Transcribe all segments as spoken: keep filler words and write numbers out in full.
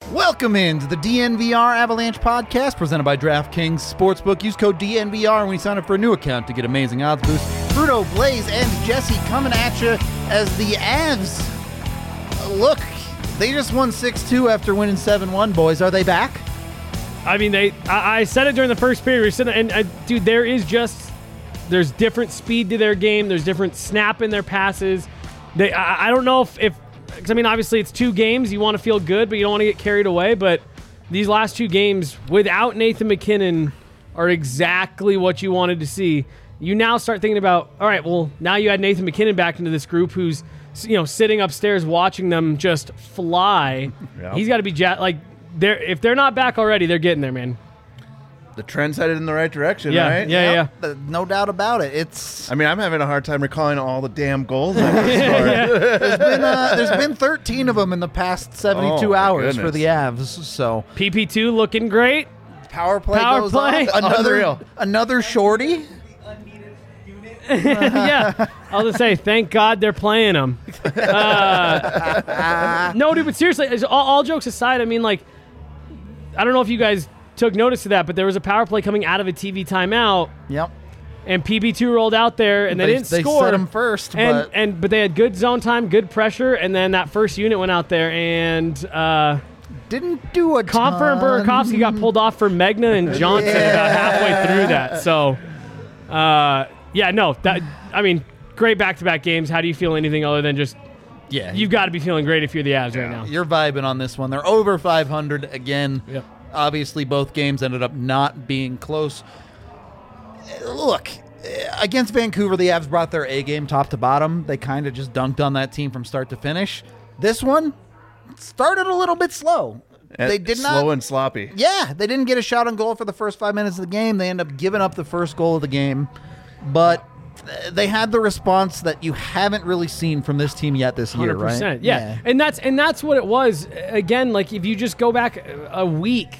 Welcome into the D N V R Avalanche podcast presented by DraftKings Sportsbook. Use code D N V R when you sign up for a new account to get amazing odds boosts. Bruno, Blaze, and Jesse coming at you as the Avs. Uh, look, they just won six two after winning seven one, boys. Are they back? I mean, they. I, I said it during the first period. We said, and uh, dude, there is just there's different speed to their game. There's different snap in their passes. They. I, I don't know if, if I mean, obviously it's two games. You want to feel good, but you don't want to get carried away. But these last two games without Nathan MacKinnon are exactly what you wanted to see. You now start thinking about, all right, well, now you add Nathan MacKinnon back into this group who's, you know, sitting upstairs watching them just fly. Yep. He's got to be ja- like, they're if they're not back already, they're getting there, man. The trend's headed in the right direction, yeah, right? Yeah, yep. yeah. Uh, no doubt about it. It's. I mean, I'm having a hard time recalling all the damn goals that were scored. yeah. There's been uh, there's been thirteen of them in the past seventy-two Oh, hours goodness. for the Avs. So P P two looking great. power play Power goes play. on. Another Unreal. another shorty. yeah, I'll just say, thank God they're playing them. Uh, no, dude, but seriously, all, all jokes aside, I mean, like, I don't know if you guys took notice of that, but there was a power play coming out of a T V timeout. Yep. And P B two rolled out there, and they, They- didn't they score. set 'em first, and, but- and but they had good zone time, good pressure, and then that first unit went out there, and uh, Didn't do a Confer and ton. Burakovsky got pulled off for Megna and Johnson Yeah. about halfway through that. So, uh, yeah, no, that I mean, great back-to-back games. How do you feel anything other than just Yeah, you've got to be feeling great if you're the Avs right now? You're vibing on this one. They're over five hundred again. Yep. Obviously, both games ended up not being close. Look, against Vancouver, the Avs brought their A game top to bottom. They kind of just dunked on that team from start to finish. This one started a little bit slow. And They did slow not. and sloppy. Yeah, they didn't get a shot on goal for the first five minutes of the game. They end up giving up the first goal of the game. But they had the response that you haven't really seen from this team yet this year, one hundred percent. right? Yeah. And that's and that's what it was. Again, like if you just go back a week,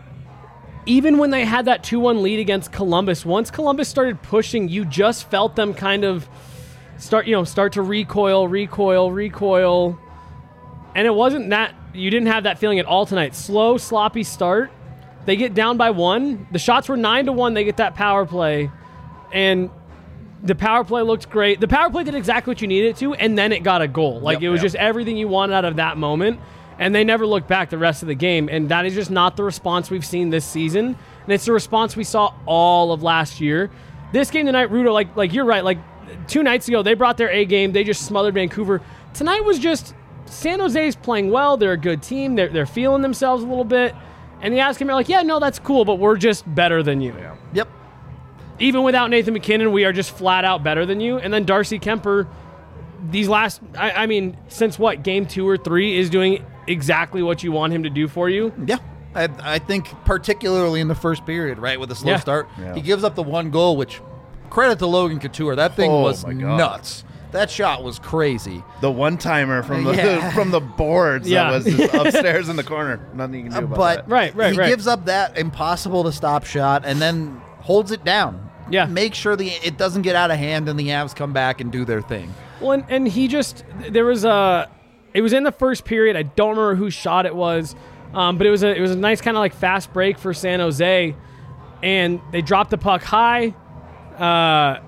even when they had that two one lead against Columbus, once Columbus started pushing, you just felt them kind of start, you know, start to recoil, recoil, recoil. And it wasn't that you didn't have that feeling at all tonight. Slow, sloppy start. They get down by one. The shots were nine to one. They get that power play. And the power play looked great. The power play did exactly what you needed it to, and then it got a goal. Like, Yep, it was yep. just everything you wanted out of that moment, and they never looked back the rest of the game, and that is just not the response we've seen this season, and it's the response we saw all of last year. This game tonight, Rudo, like, like you're right, like, two nights ago, they brought their A game, they just smothered Vancouver. Tonight was just, San Jose's playing well, they're a good team, they're, they're feeling themselves a little bit, and the Avs came out like, yeah, no, that's cool, but we're just better than you. Yeah. Yep. Even without Nathan MacKinnon, we are just flat out better than you. And then Darcy Kemper, these last, I, I mean, since what, game two or three, is doing exactly what you want him to do for you. Yeah. I, I think particularly in the first period, right, with a slow Yeah. start, Yeah. he gives up the one goal, which credit to Logan Couture. That thing Oh, was my God. nuts. That shot was crazy. The one timer from the Yeah. from the boards Yeah. that was just upstairs in the corner. Nothing you can do Uh, about but that. Right, right, he right. gives up that impossible to stop shot and then holds it down. Yeah. Make sure the it doesn't get out of hand and the Avs come back and do their thing. Well, and, and he just, there was a, it was in the first period. I don't remember whose shot it was, um, but it was a, it was a nice kind of like fast break for San Jose, and they dropped the puck high. Uh,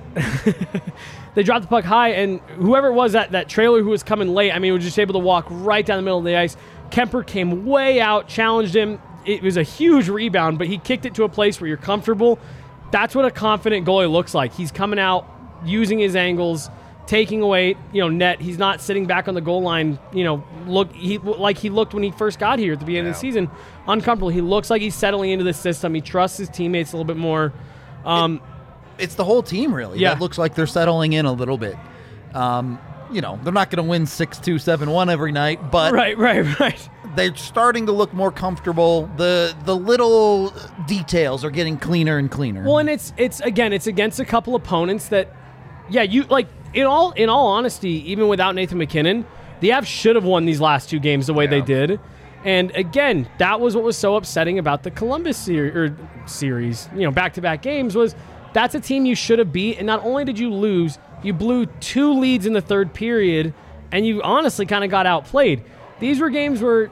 they dropped the puck high, and whoever it was, that, that trailer who was coming late, I mean, was just able to walk right down the middle of the ice. Kemper came way out, challenged him. It was a huge rebound, but he kicked it to a place where you're comfortable. That's what a confident goalie looks like. He's coming out, using his angles, taking away, you know, net. He's not sitting back on the goal line, you know, look he like he looked when he first got here at the beginning of the season, uncomfortable. He looks like he's settling into the system. He trusts his teammates a little bit more. Um, It's the whole team, really. Yeah. That looks like they're settling in a little bit. Um, you know, they're not going to win six two, seven one every night, but right, right, right. they're starting to look more comfortable. The the little details are getting cleaner and cleaner. Well, and it's it's again, it's against a couple opponents that, yeah, you like in all in all honesty, even without Nathan MacKinnon, the Avs should have won these last two games the way they did. And again, that was what was so upsetting about the Columbus ser- or series, you know, back-to-back games was that's a team you should have beat. And not only did you lose, you blew two leads in the third period, and you honestly kind of got outplayed. These were games where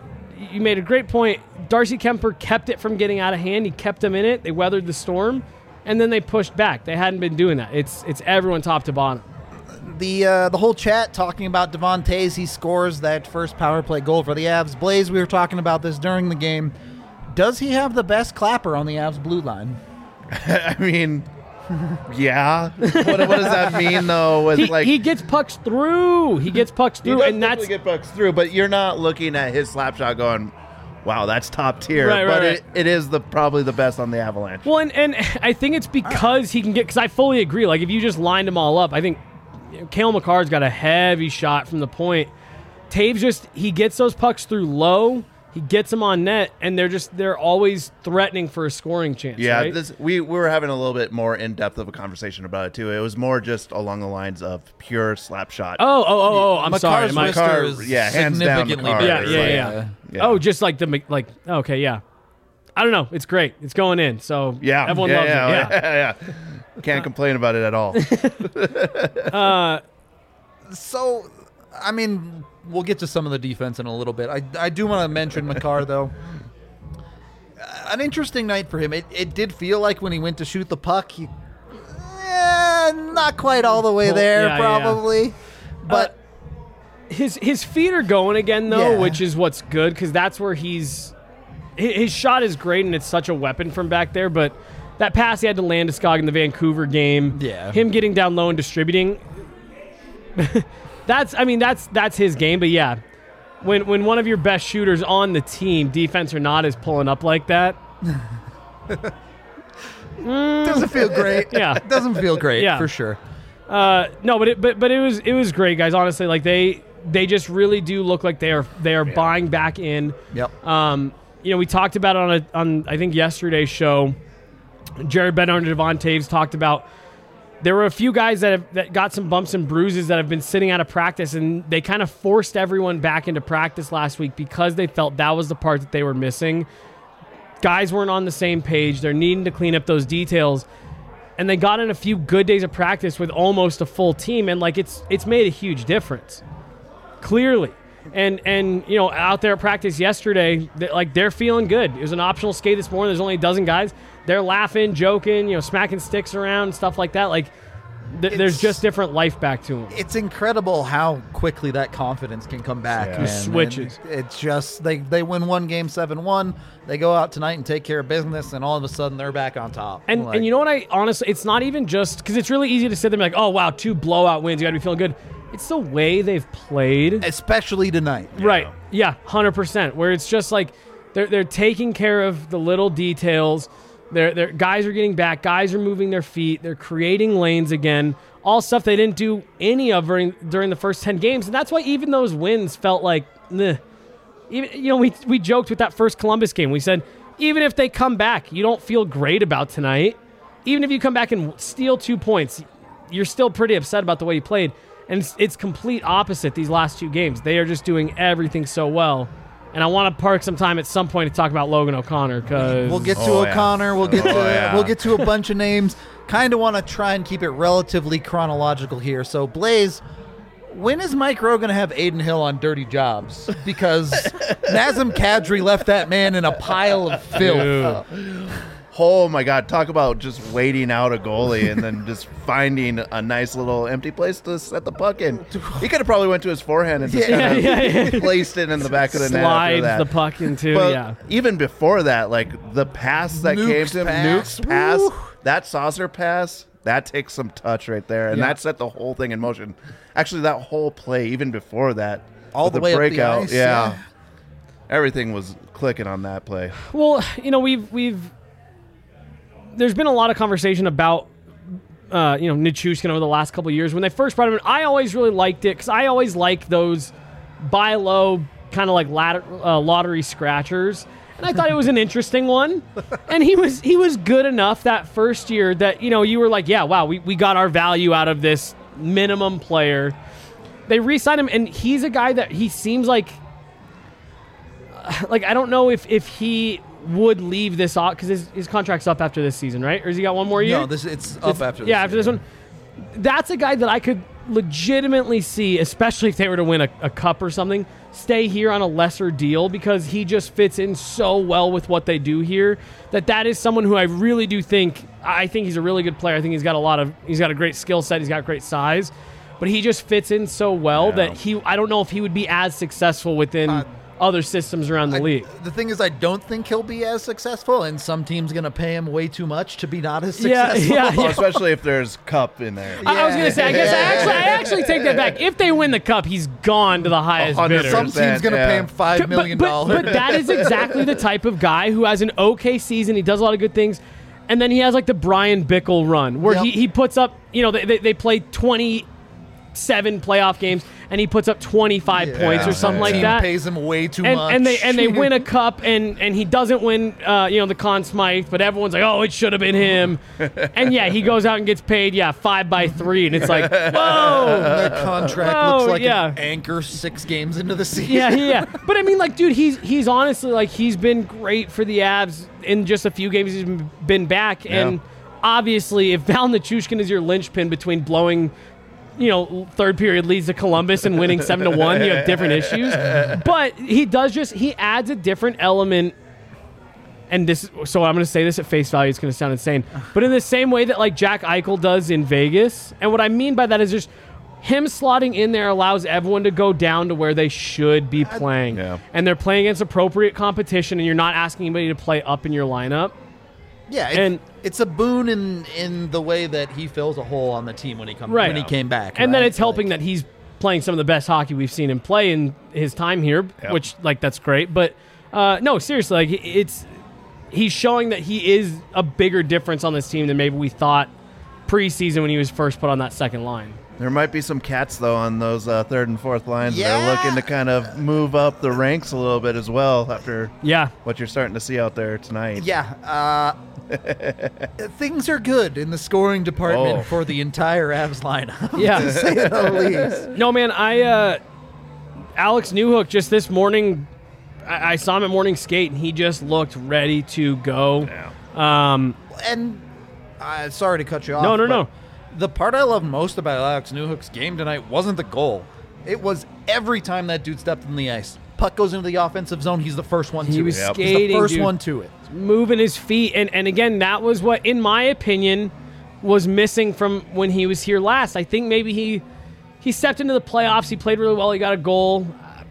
you made a great point. Darcy Kemper kept it from getting out of hand. He kept them in it. They weathered the storm, and then they pushed back. They hadn't been doing that. It's it's everyone top to bottom. The uh, the whole chat talking about Devon Toews. He scores that first power play goal for the Avs. Blaze, we were talking about this during the game. Does he have the best clapper on the Avs blue line? I mean, yeah. What, what does that mean, though? With He, like he gets pucks through. He gets pucks he through, does and that's definitely get pucks through, but you're not looking at his slap shot going, wow, that's top tier. Right, right, but right. It, it is the probably the best on the Avalanche. well, and, and I think it's because he can get. Because I fully agree. Like if you just lined them all up, I think Cale Makar's got a heavy shot from the point. Taves just he gets those pucks through low. He gets them on net, and they're just they're always threatening for a scoring chance. Yeah, right? this, we, we were having a little bit more in-depth of a conversation about it, too. It was more just along the lines of pure slap shot. Oh, oh, oh, oh! I'm Makar's sorry. My, wrister Makar- is yeah, hands down significantly Makar. yeah, better. yeah, Like, yeah, yeah. Oh, just like the Mc- like. Okay, yeah. I don't know. It's great. It's going in. So Yeah, everyone yeah, loves yeah, it. Yeah. yeah, yeah. Can't complain about it at all. So, I mean, we'll get to some of the defense in a little bit. I, I do want to mention Makar, though. An interesting night for him. It, it did feel like when he went to shoot the puck, he, eh, not quite all the way there, Yeah, yeah. probably. But His his feet are going again though, Yeah. which is what's good because that's where he's. hi- His shot is great and it's such a weapon from back there, but that pass he had to Landeskog in the Vancouver game, Yeah. him getting down low and distributing. that's I mean that's that's his game, but yeah, when when one of your best shooters on the team, defense or not, is pulling up like that, doesn't feel great. Yeah. Doesn't feel great, Yeah. for sure. Uh, no, but it, but but it was it was great, guys. Honestly, like they they just really do look like they are they are buying back in. Yep. Um, you know, we talked about it on a on I think yesterday's show. Jared Bednar and Devon Toews talked about there were a few guys that have that got some bumps and bruises that have been sitting out of practice, and they kind of forced everyone back into practice last week because they felt that was the part that they were missing. Guys weren't on the same page. They're needing to clean up those details. And they got in a few good days of practice with almost a full team, and like it's it's made a huge difference, clearly. And and you know out there at practice yesterday, they, like they're feeling good. It was an optional skate this morning. There's only a dozen guys. They're laughing, joking, you know, smacking sticks around, stuff like that. Like th- there's It's- just different life back to them. It's incredible how quickly that confidence can come back. Yeah. man. Just switches. And It's just they they win one game seven one. They go out tonight and take care of business, and all of a sudden they're back on top. And Like, and you know what? I honestly, it's not even just because it's really easy to sit there and be like, oh wow, two blowout wins. You got to be feeling good. It's the way they've played. especially tonight. Right. Yeah, one hundred percent. Where it's just like they're they're taking care of the little details. They're, they're, guys are getting back. Guys are moving their feet. They're creating lanes again. All stuff they didn't do any of during, during the first ten games. And that's why even those wins felt like, meh. Even, you know, we, we joked with that first Columbus game. We said, even if they come back, you don't feel great about tonight. Even if you come back and steal two points, you're still pretty upset about the way you played. And it's, it's complete opposite these last two games. They are just doing everything so well. And I want to park some time at some point to talk about Logan O'Connor because We'll get to Oh, yeah. O'Connor. We'll get to Oh, yeah. we'll get to a bunch of names. Kind of want to try and keep it relatively chronological here. So Blaze, when is Mike Rowe going to have Aiden Hill on dirty jobs? Because Nazem Kadri left that man in a pile of filth. Oh my God! Talk about just waiting out a goalie and then just finding a nice little empty place to set the puck in. He could have probably went to his forehand and just Yeah, kind of yeah, yeah. placed it in the back of the net. after slides that. the puck into. But yeah. even before that, like the pass that came Nuke's to him, pass. Nuke's pass, Woo. that saucer pass, that takes some touch right there, and Yeah. that set the whole thing in motion. Actually, that whole play, even before that, All with the way up the breakout, ice, yeah, yeah. everything was clicking on that play. Well, you know, we've we've there's been a lot of conversation about uh, you know Nichushkin over the last couple of years. When they first brought him in, I always really liked it because I always like those buy low kind of like ladder, uh, lottery scratchers, and I thought it was an interesting one. And he was he was good enough that first year that you know you were like, yeah, wow, we we got our value out of this minimum player. They re-signed him, and he's a guy that he seems like. Like I don't know if if he would leave this off because his, his contract's up after this season, right? Or has he got one more year? No, this it's up It's- after this yeah, after this year. one. That's a guy that I could legitimately see, especially if they were to win a, a cup or something, stay here on a lesser deal because he just fits in so well with what they do here that that is someone who I really do think I think he's a really good player. I think he's got a lot of he's got a great skill set, he's got great size, but he just fits in so well Yeah. that he I don't know if he would be as successful within Uh, other systems around the I- league. The thing is, I don't think he'll be as successful, and some team's going to pay him way too much to be not as Yeah, successful. yeah, Well, especially if there's Cup in there. I, I was going to say, I guess I actually, I actually take that back. If they win the cup, he's gone to the highest one hundred bidder. Some team's going to Yeah. pay him five But- million but, dollars. but that is exactly the type of guy who has an okay season. He does a lot of good things. And then he has like the Brian Bickle run where Yep. he, he puts up, you know, they, they, they play twenty-seven playoff games and he puts up twenty-five Yeah. points or something Yeah. like Team that. pays him way too and, much. and they and they win a cup and, and he doesn't win uh, you know the Conn Smythe, but everyone's like, oh, it should have been him. And yeah, he goes out and gets paid yeah five by three, and it's like, whoa. Their contract Oh, looks like yeah. an anchor six games into the season. Yeah, yeah. But I mean, like, dude, he's he's honestly like he's been great for the Avs in just a few games he's been back, and obviously, if Val Nichushkin is your linchpin between blowing, you know, third period leads to Columbus and winning seven to one, you have different issues. But he does just he adds a different element. And this, so I'm going to say this at face value. It's going to sound insane, but in the same way that like Jack Eichel does in Vegas, and what I mean by that is just him slotting in there allows everyone to go down to where they should be playing, Yeah. and they're playing against appropriate competition, and you're not asking anybody to play up in your lineup. Yeah, it's, And- it's a boon in in the way that he fills a hole on the team when he comes Right. when he came back, And then right? it's helping Like, that he's playing some of the best hockey we've seen him play in his time here, Yep. which like that's great. But uh, no, seriously, like it's he's showing that he is a bigger difference on this team than maybe we thought preseason when he was first put on that second line. There might be some cats, though, on those uh, third and fourth lines. Yeah. They're looking to kind of move up the ranks a little bit as well after Yeah. what you're starting to see out there tonight. Yeah, uh, things are good in the scoring department Oh. for the entire Avs lineup. Yeah. to say the least. No, man, I uh, Alex Newhook just this morning, I, I saw him at morning skate, and he just looked ready to go. Yeah. Um, And uh, sorry to cut you off. No, no, but no. The part I love most about Alex Newhook's game tonight wasn't the goal. It was every time that dude stepped in the ice. Puck goes into the offensive zone. He's the first one He to was it. He's the skating, first dude. one to it. moving his feet, and, and again, that was what, in my opinion, was missing from when he was here last. I think maybe he he stepped into the playoffs. He played really well. He got a goal.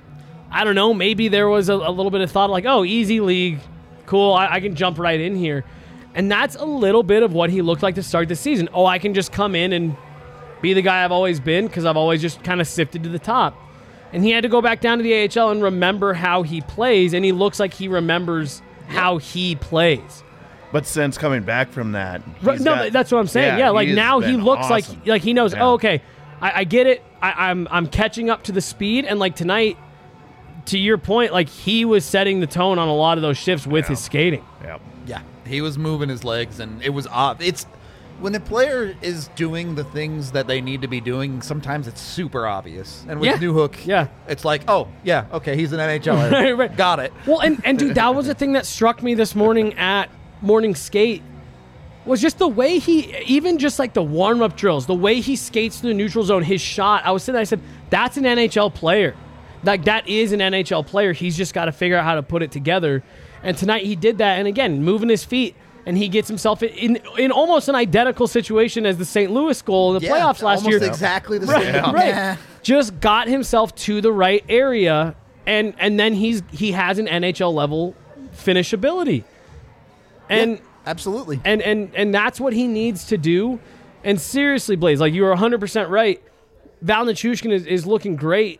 I don't know. Maybe there was a, a little bit of thought like, oh, easy league. Cool. I, I can jump right in here. And that's a little bit of what he looked like to start the season. Oh, I can just come in and be the guy I've always been because I've always just kind of sifted to the top. And he had to go back down to the A H L and remember how he plays, and he looks like he remembers how he plays. But since coming back from that, Right, he's no, got- that's what I'm saying. Yeah, like he's now he been looks awesome. like like he knows. Yeah. Oh, okay, I, I get it. I, I'm I'm catching up to the speed, and like tonight, to your point, like he was setting the tone on a lot of those shifts with Yeah. his skating. Yep. Yeah, he was moving his legs, and it was odd. It's when the player is doing the things that they need to be doing. Sometimes it's super obvious, and with Yeah. Newhook, Yeah. it's like, oh yeah, okay, he's an N H L er. Right, right. Got it. Well, and and dude, that was the thing that struck me this morning at morning skate. Was just the way he, even just like the warm-up drills, the way he skates through the neutral zone, his shot. I was sitting there, I said, that's an N H L player. Like, that is an N H L player. He's just got to figure out how to put it together. And tonight he did that. And again, moving his feet, and he gets himself in in almost an identical situation as the Saint Louis goal in the Yeah, playoffs last almost year. exactly the Right, same. right. Yeah. Just got himself to the right area, and and then he's he has an N H L level finishability. And Yeah, absolutely. and and and that's what he needs to do. And seriously, Blaze, like you are one hundred percent right. Val Nichushkin is, is looking great,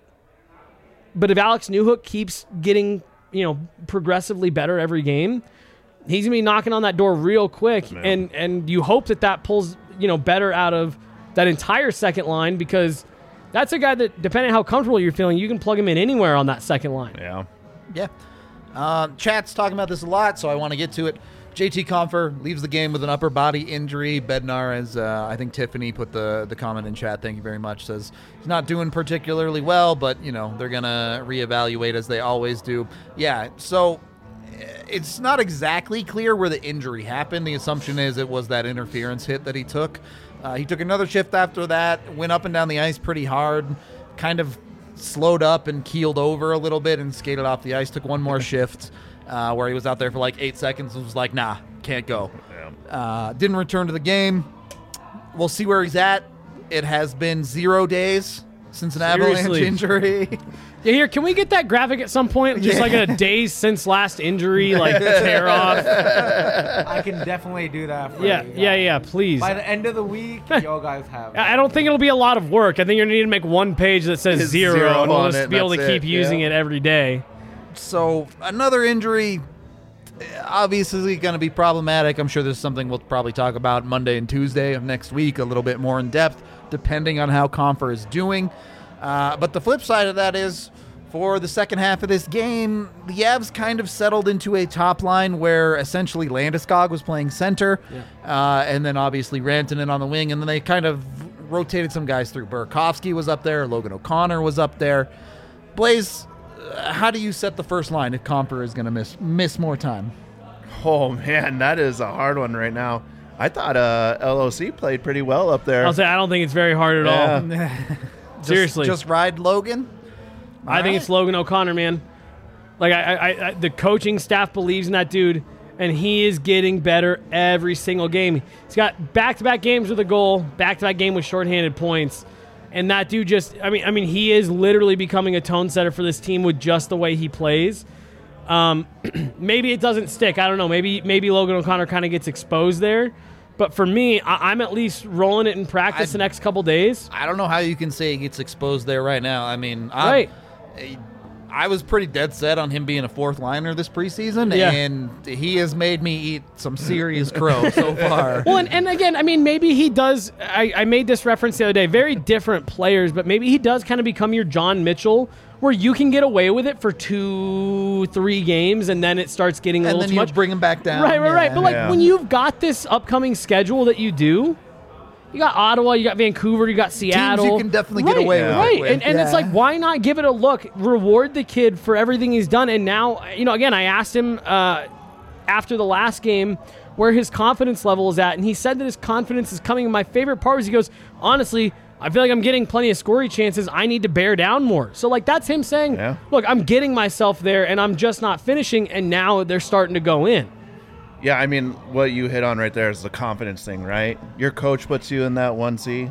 but if Alex Newhook keeps getting, you know, progressively better every game, he's gonna be knocking on that door real quick. Yeah. And and you hope that that pulls, you know, better out of that entire second line, because that's a guy that, depending on how comfortable you're feeling, you can plug him in anywhere on that second line. Yeah. Yeah. Um, chat's talking about this a lot, so I want to get to it. J T Compher leaves the game with an upper body injury. Bednar, as uh, I think Tiffany put the, the comment in chat, thank you very much, says he's not doing particularly well, but, you know, they're going to reevaluate as they always do. Yeah, so it's not exactly clear where the injury happened. The assumption is it was that interference hit that he took. Uh, he took another shift after that, went up and down the ice pretty hard, kind of slowed up and keeled over a little bit and skated off the ice. Took one more shift uh, where he was out there for like eight seconds and was like, nah, can't go. Yeah. Uh, didn't return to the game. We'll see where he's at. It has been zero days since an Seriously. Avalanche injury. Yeah, here, can we get that graphic at some point? Just Yeah. like a days since last injury, like tear off. I can definitely do that for Yeah, you. yeah, yeah, please. By the end of the week, y'all guys have. I I don't think it'll be a lot of work. I think you're going to need to make one page that says It's zero, zero and we'll on just it, be able to that's keep it, using yeah. it every day. So another injury, obviously going to be problematic. I'm sure there's something we'll probably talk about Monday and Tuesday of next week a little bit more in depth, depending on how Compher is doing. Uh, but the flip side of that is, for the second half of this game, the Avs kind of settled into a top line where essentially Landeskog was playing center, uh, and then obviously Rantanen on the wing, and then they kind of rotated some guys through. Burakovsky was up there, Logan O'Connor was up there. Blaze, uh, how do you set the first line if Compher is going to miss miss more time? Oh man, that is a hard one right now. I thought uh, L O C played pretty well up there. I'll say I don't think it's very hard at all. Yeah. Seriously. Just, just ride Logan? I think it's Logan O'Connor, man. Like I, I, I, the coaching staff believes in that dude, and he is getting better every single game. He's got back-to-back games with a goal, back-to-back game with shorthanded points, and that dude just, I mean, I mean, he is literally becoming a tone setter for this team with just the way he plays. Um, maybe it doesn't stick. I don't know. Maybe, maybe Logan O'Connor kind of gets exposed there. But for me, I, I'm at least rolling it in practice I- the next couple days. I don't know how you can say he gets exposed there right now. I mean, I'm, Right. I was pretty dead set on him being a fourth liner this preseason, Yeah. and he has made me eat some serious crow so far. Well, and, and again, I mean, maybe he does. I, I made this reference the other day. Very different players, but maybe he does kind of become your John Mitchell, where you can get away with it for two, three games, and then it starts getting a And little then too you much. bring him back down. Right, right, right. Yeah. But like Yeah. when you've got this upcoming schedule that you do, you got Ottawa, you got Vancouver, you got Seattle. you can definitely get Right, away with it Right, with. and, and it's Yeah. like, why not give it a look? Reward the kid for everything he's done. And now, you know, again, I asked him uh, after the last game where his confidence level is at, and he said that his confidence is coming. And my favorite part was he goes, honestly, I feel like I'm getting plenty of scoring chances. I need to bear down more. So, like, that's him saying, Yeah. look, I'm getting myself there, and I'm just not finishing, and now they're starting to go in. Yeah, I mean, what you hit on right there is the confidence thing, right? Your coach puts you in that one C.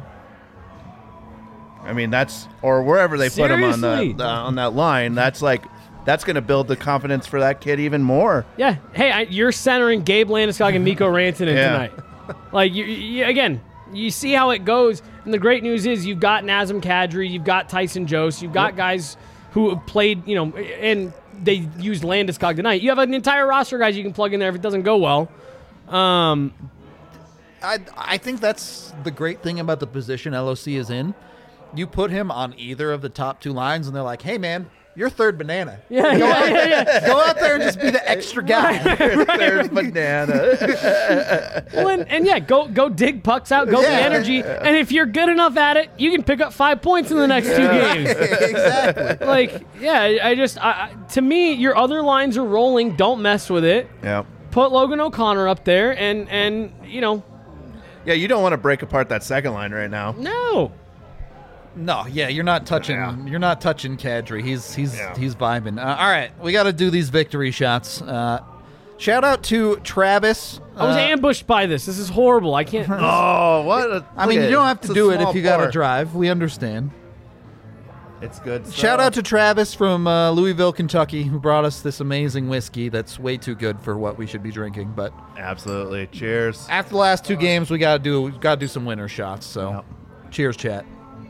I mean, that's or wherever they put him on Seriously. that the, on that line. That's like that's going to build the confidence for that kid even more. Yeah. Hey, I, you're centering Gabe Landeskog and Mikko Rantanen Yeah. tonight. Like, you, you, again, you see how it goes. And the great news is you've got Nazem Kadri, you've got Tyson Jost, you've got guys who have played, you know, and they used Landeskog tonight. You have an entire roster of guys you can plug in there if it doesn't go well. Um, I, I think that's the great thing about the position L O C is in. You put him on either of the top two lines, and they're like, hey, man, you're third banana. yeah, Go, yeah, out, yeah, yeah. go out there and just be the extra guy. There's banana. Well, and, and yeah, go go dig pucks out, go Yeah. get energy. And if you're good enough at it, you can pick up five points in the next two games. Exactly. Like, yeah, I just, I, I- to me, your other lines are rolling. Don't mess with it. Yeah. Put Logan O'Connor up there, and and you know, Yeah, you don't want to break apart that second line right now. no. No, yeah, you're not touching. Yeah. You're not touching Kadri. He's he's Yeah. he's vibing. Uh, all right, we got to do these victory shots. Uh, shout out to Travis. I was Uh, ambushed by this. This is horrible. I can't. Oh, what? A, I mean, look you at don't have It's to a do it small if you got to pour. drive. We understand. It's good. Shout stuff. out to Travis from uh, Louisville, Kentucky, who brought us this amazing whiskey that's way too good for what we should be drinking. But Absolutely. Cheers. after the last two games, we got to do we got to do some winner shots. So, Yep. cheers, chat.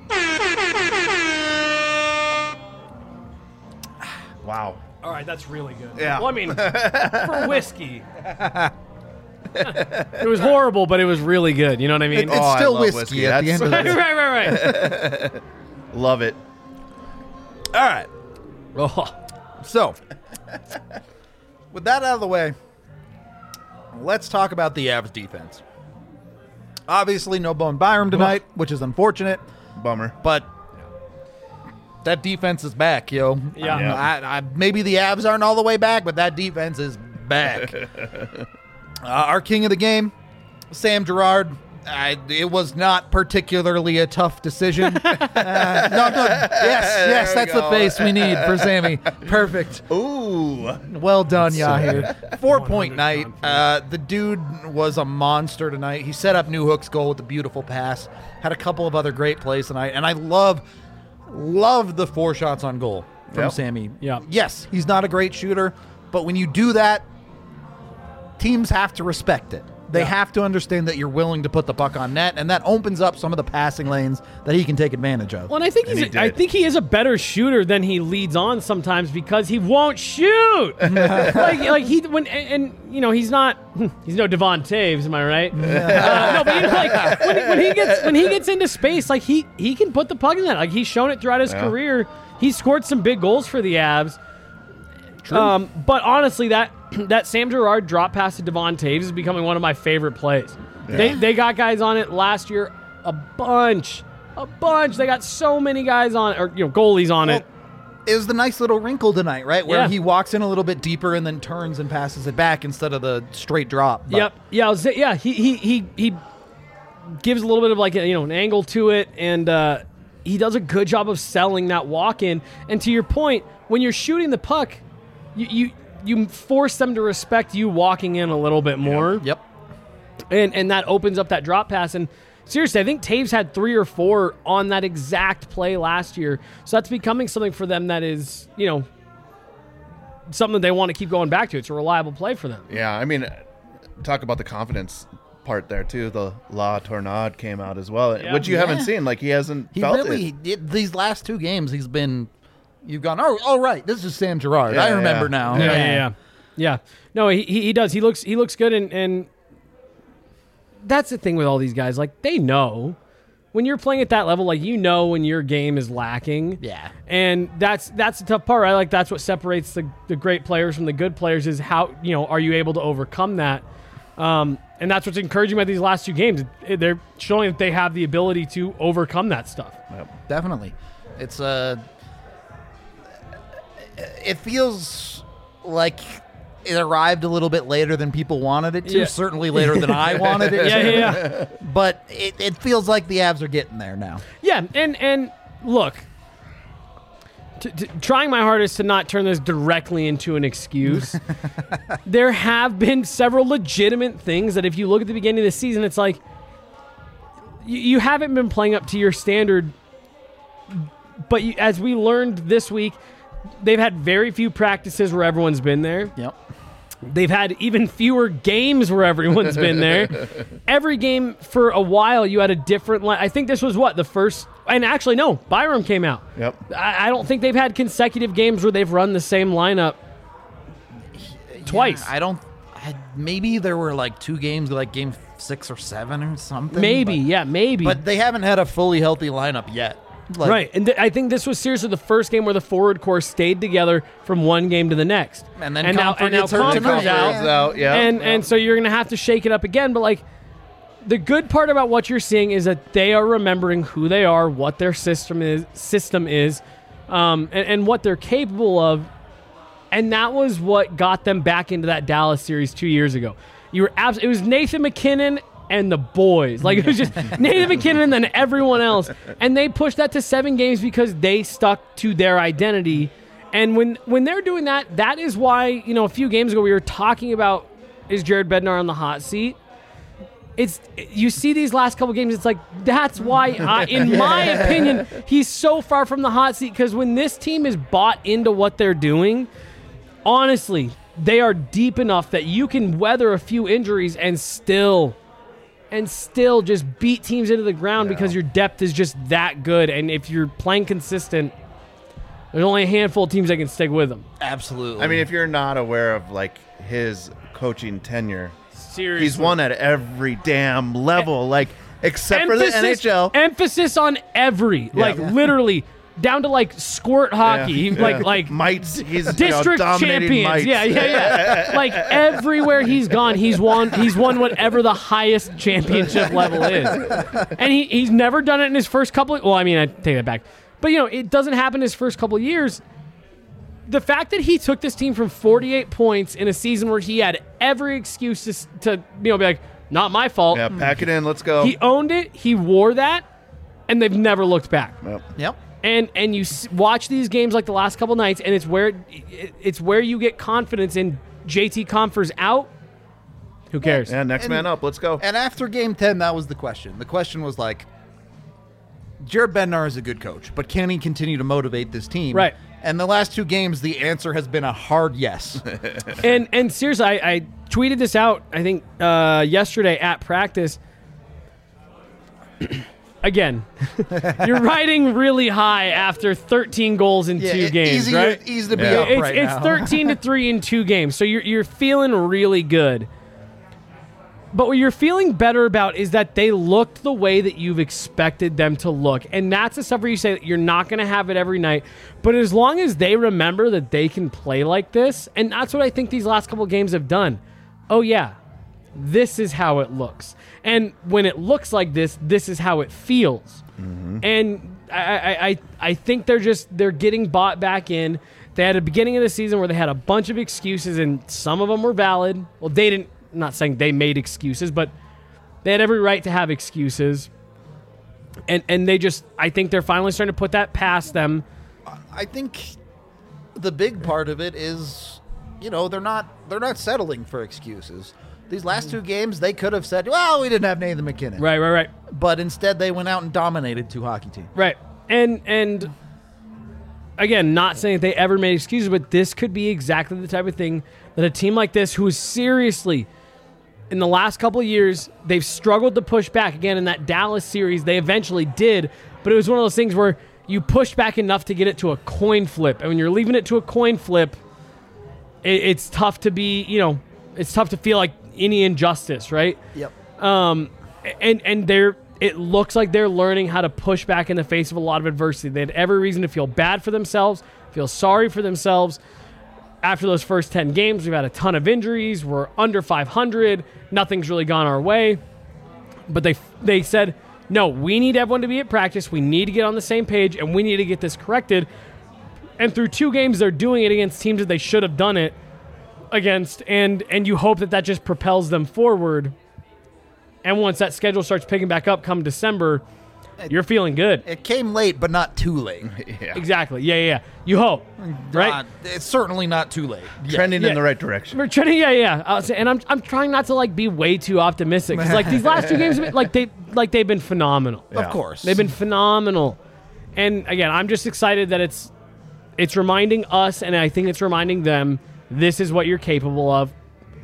Wow. All right, that's really good. Yeah. Well, I mean, for whiskey, it was horrible, but it was really good. You know what I mean? It's Oh, I still love whiskey, whiskey. at the That's- end of the right, day. right, right, right. Love it. All right. Oh. So, with that out of the way, let's talk about the Avs defense. Obviously, no Bowen Byram tonight, which is unfortunate, Bummer. but that defense is back, yo. Yeah. Um, I, I, maybe the Avs aren't all the way back, but that defense is back. uh, our king of the game, Sam Girard, I, it was not particularly a tough decision. uh, no, no, yes, yes, we that's the go. face we need for Sammy. Perfect. Ooh. Well done, Yahir. Four-point night. Uh, the dude was a monster tonight. He set up New Hook's goal with a beautiful pass. Had a couple of other great plays tonight, and I love, love the four shots on goal from Yep. Sammy. Yeah. Yes, he's not a great shooter, but when you do that, teams have to respect it. They Yeah. have to understand that you're willing to put the puck on net, and that opens up some of the passing lanes that he can take advantage of. Well, and I think And he's he a, I did. think he is a better shooter than he leads on sometimes because he won't shoot. like like he when and, and you know he's not he's no Devon Taves, am I right? uh, no, but you know, like when, when he gets when he gets into space, like he he can put the puck in that. Like he's shown it throughout his Yeah. career. He's scored some big goals for the Avs. Um, but honestly, that that Sam Girard drop pass to Devon Taves is becoming one of my favorite plays. They they got guys on it last year, a bunch, a bunch. They got so many guys on it, or you know, goalies on it. It was the nice little wrinkle tonight, right? Where Yeah. he walks in a little bit deeper and then turns and passes it back instead of the straight drop. But Yep. Yeah. I was, yeah. He he he he gives a little bit of like a, you know an angle to it, and uh, he does a good job of selling that walk in. And to your point, when you're shooting the puck, you you, you force them to respect you walking in a little bit more. Yep. And and that opens up that drop pass. And seriously, I think Taves had three or four on that exact play last year. So that's becoming something for them that is, you know, something that they want to keep going back to. It's a reliable play for them. Yeah, I mean, talk about the confidence part there too. The La Tornade came out as well, Yeah. which you Yeah. haven't seen. Like he hasn't He felt really, it. it, these last two games, he's been, you've gone, oh, oh right, this is Sam Girard. Yeah, I remember yeah. now. Yeah, yeah, yeah. Yeah. No, he, he he does. He looks he looks good, and, and that's the thing with all these guys. Like, they know when you're playing at that level, like, you know when your game is lacking. Yeah. And that's that's the tough part, right? Like, that's what separates the, the great players from the good players is how, you know, are you able to overcome that? Um, and that's what's encouraging about these last two games. It- They're showing that they have the ability to overcome that stuff. Definitely. It's uh it feels like it arrived a little bit later than people wanted it to, Yeah. certainly later than I wanted it Yeah, to. yeah, yeah. But it, it feels like the Avs are getting there now. Yeah, and and look, t- t- trying my hardest to not turn this directly into an excuse. There have been several legitimate things that if you look at the beginning of the season, it's like you, you haven't been playing up to your standard. But you, as we learned this week, they've had very few practices where everyone's been there. Yep. They've had even fewer games where everyone's been there. Every game for a while, you had a different line. I think this was what, the first... And actually, no, Byram came out. Yep. I, I don't think they've had consecutive games where they've run the same lineup twice. Yeah, I don't I, maybe there were like two games, like game six or seven or something. maybe, but, yeah, maybe. but they haven't had a fully healthy lineup yet. Like, right, and th- I think this was seriously the first game where the forward core stayed together from one game to the next. And then and now, Comfort and now gets hurt Comfort's tonight. out. Comfort's out, yeah. and yeah. and so you're going to have to shake it up again. But like, the good part about what you're seeing is that they are remembering who they are, what their system is, system is, um, and, and what they're capable of. And that was what got them back into that Dallas series two years ago. You were abs- It was Nathan McKinnon and the boys. Like, it was just Nathan McKinnon and then everyone else. And they pushed that to seven games because they stuck to their identity. And when when they're doing that, that is why, you know, a few games ago we were talking about, is Jared Bednar on the hot seat? It's you see these last couple games, it's like, that's why, I, in my opinion, he's so far from the hot seat, because when this team is bought into what they're doing, honestly, they are deep enough that you can weather a few injuries and still and still just beat teams into the ground Yeah. because your depth is just that good. And if you're playing consistent, there's only a handful of teams that can stick with them. Absolutely. I mean, if you're not aware of like his coaching tenure, Seriously. he's won at every damn level, like except for the N H L. Emphasis on every, like literally down to like squirt hockey, Yeah. like Yeah. like mites. He's you know, district dominating champions. mites. Yeah, yeah, yeah. Like everywhere he's gone, he's won. He's won whatever the highest championship level is, and he he's never done it in his first couple. Of, well, I mean, I take that back, but you know, it doesn't happen his first couple of years. The fact that he took this team from forty-eight points in a season where he had every excuse to, to you know, be like, Not my fault. Yeah, pack it in. Let's go. He owned it. He wore that, and they've never looked back. Yep. Yep. And and you s- watch these games like the last couple nights, and it's where it, it's where you get confidence in J T Compher's out. Who cares? Yeah, next And- man up. Let's go. And after game ten, that was the question. The question was like, Jared Bednar is a good coach, but can he continue to motivate this team? Right. And the last two games, the answer has been a hard yes. And and seriously, I, I tweeted this out, I think, uh, yesterday at practice. Again, you're riding really high after thirteen goals in Yeah, two it- games, easy, right? Easy to be Yeah. up It's, right it's now. thirteen to three in two games, so you're you're feeling really good. But what you're feeling better about is that they looked the way that you've expected them to look. And that's the stuff where you say that you're not going to have it every night. But as long as they remember that they can play like this, and that's what I think these last couple games have done. Oh, yeah, this is how it looks. And when it looks like this, this is how it feels. And I, I, I, I think they're just, they're getting bought back in. They had a beginning of the season where they had a bunch of excuses, and some of them were valid. Well, they didn't. I'm not saying they made excuses, but they had every right to have excuses. And and they just, I think they're finally starting to put that past them. I think the big part of it is, you know, they're not they're not settling for excuses. These last two games, they could have said, well, we didn't have Nathan McKinnon. Right, right, right. But instead, they went out and dominated two hockey teams. Right. And and again, not saying that they ever made excuses, but this could be exactly the type of thing that a team like this, who is seriously, in the last couple of years, they've struggled to push back. Again, in that Dallas series, they eventually did, but it was one of those things where you pushed back enough to get it to a coin flip. And when you're leaving it to a coin flip, it, it's tough to be, you know, it's tough to feel like any injustice, right? Yep. Um, and and they're it looks like they're learning how to push back in the face of a lot of adversity. They had every reason to feel bad for themselves, feel sorry for themselves. After those first ten games, we've had a ton of injuries. We're under five hundred. Nothing's really gone our way. But they they said, no, we need everyone to be at practice. We need to get on the same page, and we need to get this corrected. And through two games, they're doing it against teams that they should have done it against. And, and you hope that that just propels them forward. And once that schedule starts picking back up come December, you're feeling good. It came late, but not too late. Yeah. Exactly. Yeah, yeah, yeah. You hope, right? Uh, it's certainly not too late. Yeah. Trending Yeah. in the right direction. We're trending, yeah, yeah. I'll say- and I'm, I'm trying not to like be way too optimistic. 'Cause, like these last two games, have been- like they, like they've been phenomenal. Of course. They've been phenomenal. And again, I'm just excited that it's, it's reminding us, and I think it's reminding them, this is what you're capable of.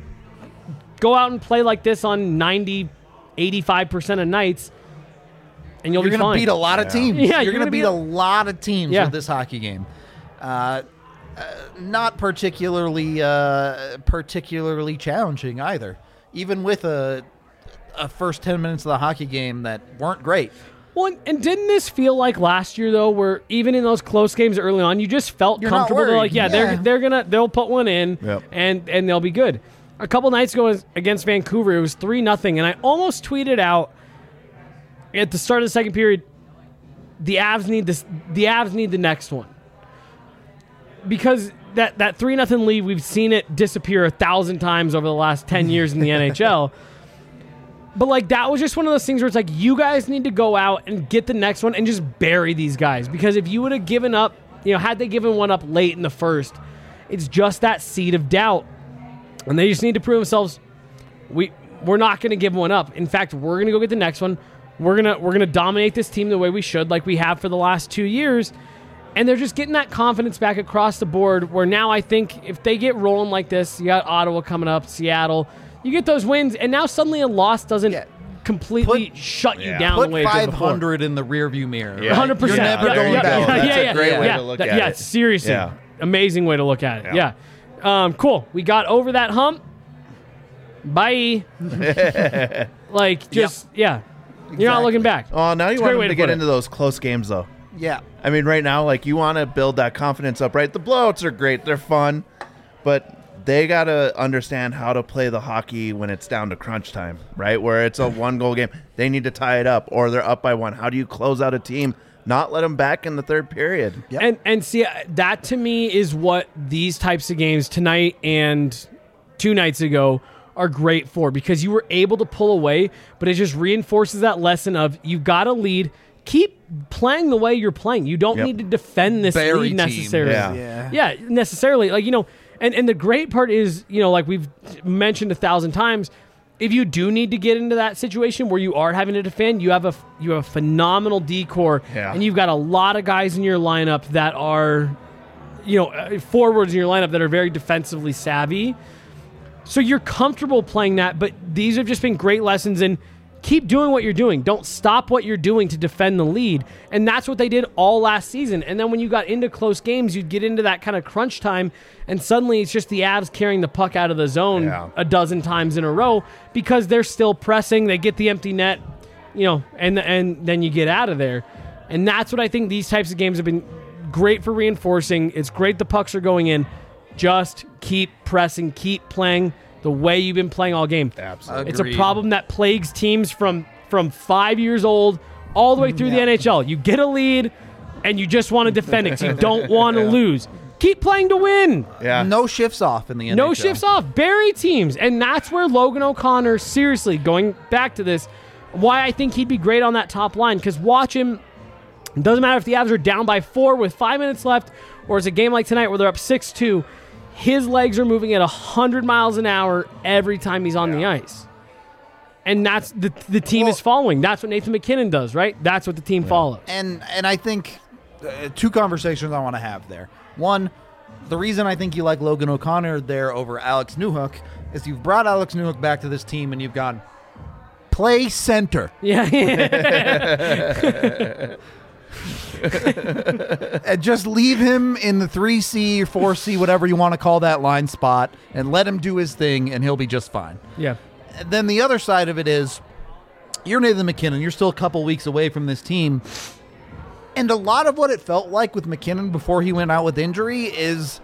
Go out and play like this on ninety, eighty-five percent of nights, and you'll You're be going fine. to beat a lot of Yeah. teams. Yeah, you're, you're going to gonna beat beat a a- lot of teams Yeah. with this hockey game. Uh, uh, not particularly, uh, particularly challenging either. Even with a, a first ten minutes of the hockey game that weren't great. Well, and, and didn't this feel like last year though, where even in those close games early on, you just felt You're not comfortable? They're worried. like, yeah, Yeah. they're they're gonna they'll put one in, Yep. and and they'll be good. A couple nights ago against Vancouver, it was three nothing, and I almost tweeted out at the start of the second period, the Avs need this. The Avs need the next one, because that that three nothing lead, we've seen it disappear a thousand times over the last ten years in the N H L. But, like, that was just one of those things where it's like, you guys need to go out and get the next one and just bury these guys. Because if you would have given up, you know, had they given one up late in the first, it's just that seed of doubt. And they just need to prove themselves, we, we're not going to give one up. In fact, we're going to go get the next one. We're going to we're gonna dominate this team the way we should, like we have for the last two years. And they're just getting that confidence back across the board, where now I think if they get rolling like this, you got Ottawa coming up, Seattle, you get those wins, and now suddenly a loss doesn't Yeah. completely Put- shut you Yeah. down Put the way it did five before. hundred in the rearview mirror. Yeah. right? one hundred percent. You're never yeah, going yeah, down. yeah, That's yeah, a yeah, great yeah, way yeah, to look that- at yeah, it. seriously. Yeah. Amazing way to look at it. Yeah. Yeah. Um, cool. We got over that hump. Bye. Like, just, yeah. You're not Exactly. looking back. Oh, now you It's a want great way them to to get put it. into those close games, though. Yeah. I mean, right now, like, you want to build that confidence up, right? The blowouts are great. They're fun. But they got to understand how to play the hockey when it's down to crunch time, right? Where it's a one-goal game. They need to tie it up, or they're up by one. How do you close out a team? Not let them back in the third period. Yep. And and see, that to me is what these types of games tonight and two nights ago are great for, because you were able to pull away, but it just reinforces that lesson of you got to lead. Keep playing the way you're playing. You don't Yep. need to defend this Berry lead team. necessarily. Yeah. Yeah. Yeah, necessarily. Like, you know, and, and the great part is, you know, like we've mentioned a thousand times, if you do need to get into that situation where you are having to defend, you have a you have a phenomenal D-core, Yeah. and you've got a lot of guys in your lineup that are, you know, uh, forwards in your lineup that are very defensively savvy. So you're comfortable playing that, but these have just been great lessons in keep doing what you're doing. Don't stop what you're doing to defend the lead. And that's what they did all last season. And then when you got into close games, you'd get into that kind of crunch time, and suddenly it's just the Avs carrying the puck out of the zone Yeah. a dozen times in a row because they're still pressing. They get the empty net, you know, and and then you get out of there. And that's what I think these types of games have been great for reinforcing. It's great the pucks are going in. Just keep pressing, keep playing the way you've been playing all game. Absolutely. It's a Agreed. problem that plagues teams from from five years old all the way through the N H L. You get a lead, and you just want to defend it 'cause you don't want to lose. Keep playing to win. Yeah. No shifts off in the N H L. No shifts off. Bury teams. And that's where Logan O'Connor, seriously, going back to this, why I think he'd be great on that top line. Because watch him. It doesn't matter if the Avs are down by four with five minutes left, or it's a game like tonight where they're up six two. His legs are moving at one hundred miles an hour every time he's on the ice. And that's the the team Well- is following. That's what Nathan McKinnon does, right? That's what the team follows. And and I think uh, two conversations I want to have there. One, the reason I think you like Logan O'Connor there over Alex Newhook is you've brought Alex Newhook back to this team and you've gone play center. Yeah. And just leave him in the three C or four C, whatever you want to call that line spot, and let him do his thing, and he'll be just fine. yeah. And then the other side of it is you're Nathan McKinnon. You're still a couple weeks away from this team. And a lot of what it felt like with McKinnon before he went out with injury is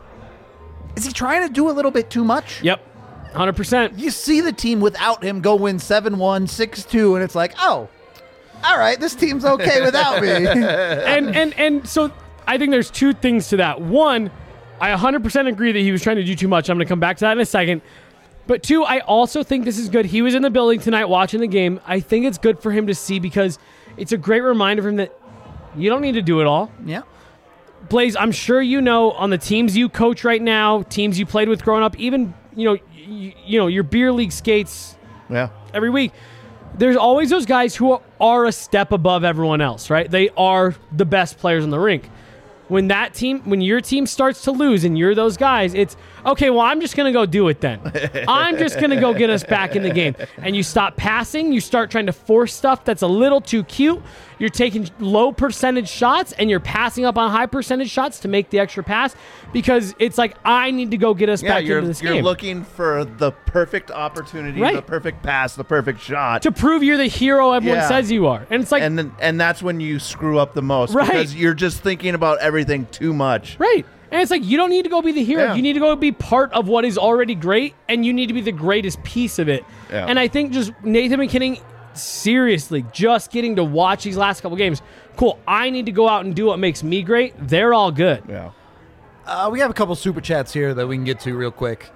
is he trying to do a little bit too much? Yep. one hundred percent. You see the team without him go win seven one, six two, and it's like, oh, all right, this team's okay without me. and and and so I think there's two things to that. One, I one hundred percent agree that he was trying to do too much. I'm going to come back to that in a second. But two, I also think this is good. He was in the building tonight watching the game. I think it's good for him to see because it's a great reminder for him that you don't need to do it all. Yeah. Blaze, I'm sure you know on the teams you coach right now, teams you played with growing up, even, you know, you, you know, your beer league skates Yeah. every week. There's always those guys who are a step above everyone else, right? They are the best players in the rink. When that team, when your team starts to lose and you're those guys, it's, okay, well, I'm just going to go do it then. I'm just going to go get us back in the game. And you stop passing. You start trying to force stuff that's a little too cute. You're taking low percentage shots and you're passing up on high percentage shots to make the extra pass because it's like, I need to go get us Yeah, back you're, into this you're game. looking for the perfect opportunity, Right. the perfect pass, the perfect shot. to prove you're the hero everyone Yeah. says you are. And it's like, and then, and that's when you screw up the most Right. because you're just thinking about everything too much. right. And it's like, you don't need to go be the hero. Yeah. You need to go be part of what is already great, and you need to be the greatest piece of it. Yeah. And I think just Nathan McKinnon, seriously, just getting to watch these last couple games, cool, I need to go out and do what makes me great. They're all good. Yeah. Uh, we have a couple super chats here that we can get to real quick.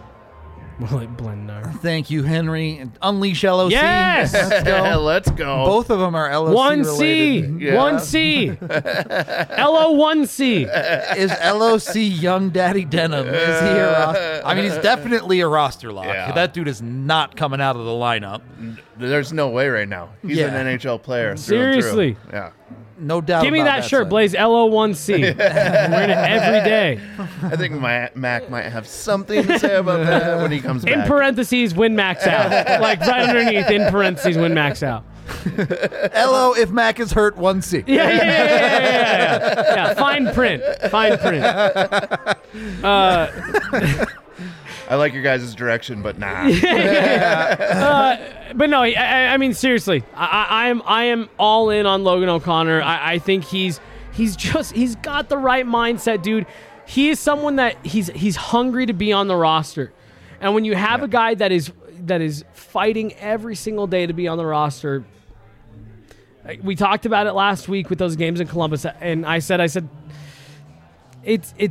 Well, like Blendar. Thank you, Henry. Unleash L O C. Yes! Let's go. Let's go. Both of them are L O C one C. related. Yeah. one C. L O one C. Is L O C Young Daddy Denim? Is he a roster? I mean, he's definitely a roster lock. Yeah. That dude is not coming out of the lineup. There's no way right now. He's Yeah. an N H L player. through and through. Seriously. Yeah. No doubt. Give me about that shirt, son. Blaze. L O one C. Wearing it every day. I think my Mac might have something to say about that when he comes In back. parentheses, win max out. Like right underneath, in parentheses, win max out. L O if Mac is hurt, one C. Yeah, yeah, yeah, yeah, yeah, yeah. Yeah, fine print. Fine print. Uh, I like your guys' direction, but nah. uh, but no, I, I mean seriously, I, I am I am all in on Logan O'Connor. I, I think he's he's just he's got the right mindset, dude. He is someone that he's he's hungry to be on the roster, and when you have a guy that is that is fighting every single day to be on the roster. We talked about it last week with those games in Columbus, and I said I said it's it's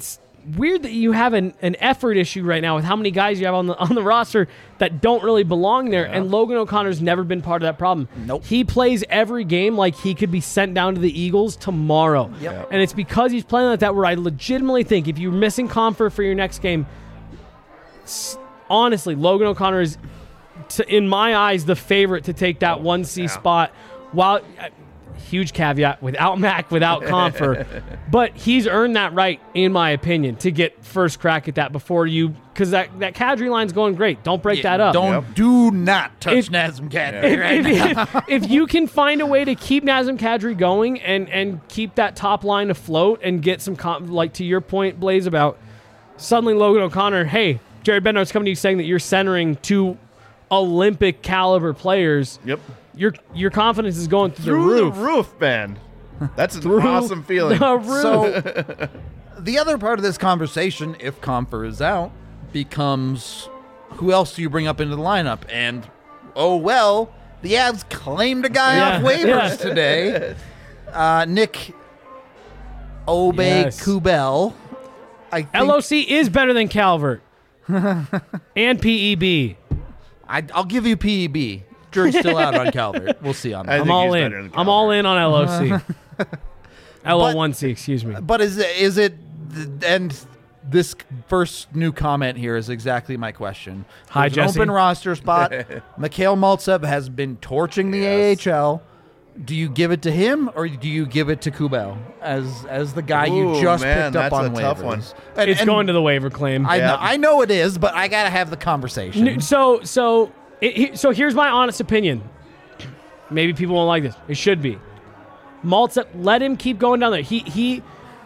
weird that you have an, an effort issue right now with how many guys you have on the on the roster that don't really belong there. Yeah. And Logan O'Connor's never been part of that problem. Nope. He plays every game like he could be sent down to the Eagles tomorrow. Yep. And it's because he's playing like that where I legitimately think if you're missing Comfort for your next game, honestly, Logan O'Connor is, to, in my eyes, the favorite to take that one C yeah. spot. While uh, huge caveat, without Mac, without Comfort, but he's earned that right, in my opinion, to get first crack at that before you, because that, that Kadri line's going great. Don't break Yeah, that up. Don't Yep. do not touch If- Nazem Kadri If, right if- now. if- if you can find a way to keep Nazem Kadri going and, and keep that top line afloat and get some, com- like to your point, Blaze, about suddenly Logan O'Connor, hey, Jared Bednar's coming to you saying that you're centering two Olympic caliber players. Yep. Your your confidence is going through, Through the roof. the roof, man. That's an Through awesome feeling. The roof. So the other part of this conversation, if Comfer is out, becomes who else do you bring up into the lineup? And, oh, well, the Avs claimed a guy Yeah, off waivers yeah. today. Uh, Nick Obe Yes. Kubel. I think, L O C is better than Calvert. And P E B. I, I'll give you P E B. Jury's still out on Calvert. We'll see on I that. I'm think all he's in. better than I'm all in on L O C. L O one C, excuse me. But is it, is it, and this first new comment here is exactly my question. Hi, There's an Jesse. open roster spot. Mikhail Maltsev has been torching the Yes. A H L. Do you give it to him or do you give it to Kubel as as the guy you Ooh, just man, picked up that's on a waivers? tough one. And- It's and going to the waiver claim. I Yeah. know, I know it is, but I gotta have the conversation. N- So so it, he- so here's my honest opinion. Maybe people won't like this. It should be. Maltsev, let him keep going down there. He he.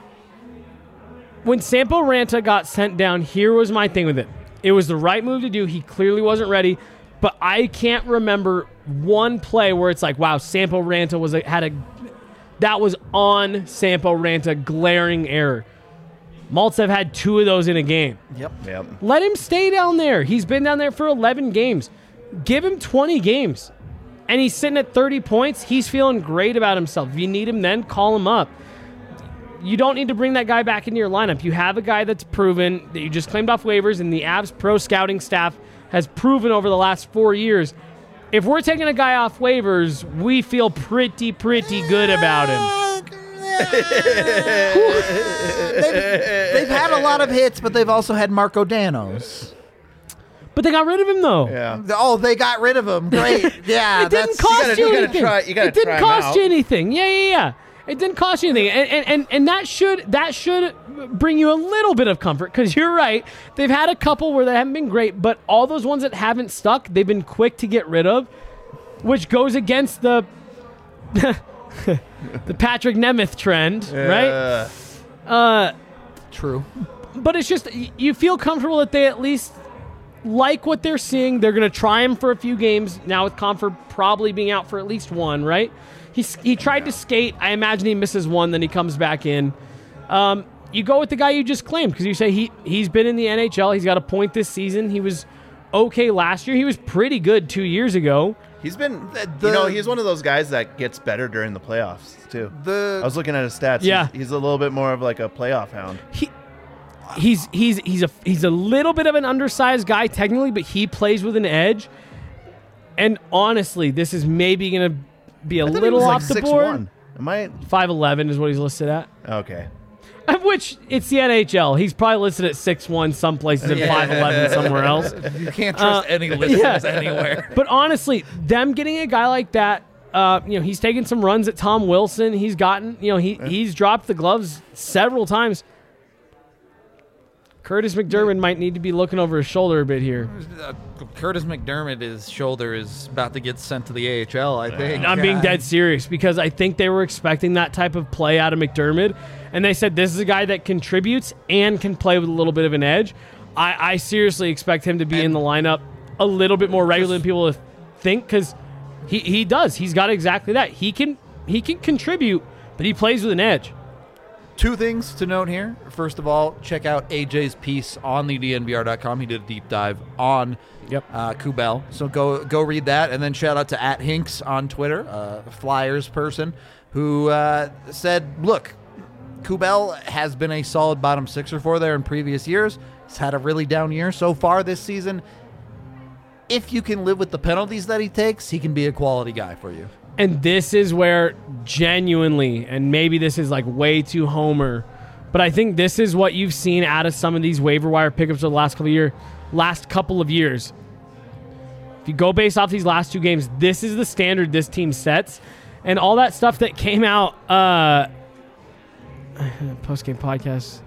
When Sampo Ranta got sent down, here was my thing with it. It was the right move to do. He clearly wasn't ready, but I can't remember one play where it's like, wow, Sampo Ranta was a, had a that was on Sampo Ranta glaring error. Maltsev had two of those in a game. Yep. Yep. Let him stay down there. He's been down there for eleven games. Give him twenty games. And he's sitting at thirty points. He's feeling great about himself. If you need him then, call him up. You don't need to bring that guy back into your lineup. You have a guy that's proven that you just claimed off waivers, and the Avs pro scouting staff has proven over the last four years. If we're taking a guy off waivers, we feel pretty, pretty good about him. they've, they've had a lot of hits, but they've also had Marco Danos. But they got rid of him, though. Yeah. Oh, they got rid of him. Great. Yeah, It didn't that's cost gotta- you, you gotta anything. try- you gotta it didn't try 'em cost out. you anything. Yeah, yeah, yeah. It didn't cost you anything, and and and, and that should that should bring you a little bit of comfort because you're right. They've had a couple where they haven't been great, but all those ones that haven't stuck, they've been quick to get rid of, which goes against the the Patrick Nemeth trend, right? Uh, true. But it's just y- you feel comfortable that they at least like what they're seeing. They're going to try him for a few games now with Comfort probably being out for at least one, right? He he tried to skate. I imagine he misses one, then he comes back in. Um, you go with the guy you just claimed because you say he he's been in the N H L. He's got a point this season. He was okay last year. He was pretty good two years ago. he's been, the- you know, he's one of those guys that gets better during the playoffs too. The I was looking at his stats. Yeah. he's, he's a little bit more of like a playoff hound. He he's he's he's a he's a little bit of an undersized guy technically, but he plays with an edge. And honestly, this is maybe going to be a I thought he little was like off the six board. one. Am I five eleven is what he's listed at. okay? Which, it's the N H L. He's probably listed at six one some places and Yeah. five eleven somewhere else. you can't trust any listeners anywhere. But honestly, them getting a guy like that, uh, you know, he's taken some runs at Tom Wilson. He's gotten, you know, he he's dropped the gloves several times. Curtis McDermott might need to be looking over his shoulder a bit here. Uh, Curtis McDermott, his shoulder is about to get sent to the A H L, I think. I'm being Uh, dead serious because I think they were expecting that type of play out of McDermott, and they said this is a guy that contributes and can play with a little bit of an edge. I, I seriously expect him to be in the lineup a little bit more regularly than people think because he, he does. He's got exactly that. He can he can contribute, but he plays with an edge. Two things to note here. First of all, check out A J's piece on the D N V R dot com. He did a deep dive on Yep. uh, Kubel. So go go read that. And then shout out to at Hinks on Twitter, uh, a Flyers person, who uh, said, look, Kubel has been a solid bottom sixer for there in previous years. He's had a really down year so far this season. If you can live with the penalties that he takes, he can be a quality guy for you. And this is where genuinely, and maybe this is like way too homer, but I think this is what you've seen out of some of these waiver wire pickups of the last couple of year, last couple of years. If you go based off these last two games, this is the standard this team sets. And all that stuff that came out uh, post-game podcast.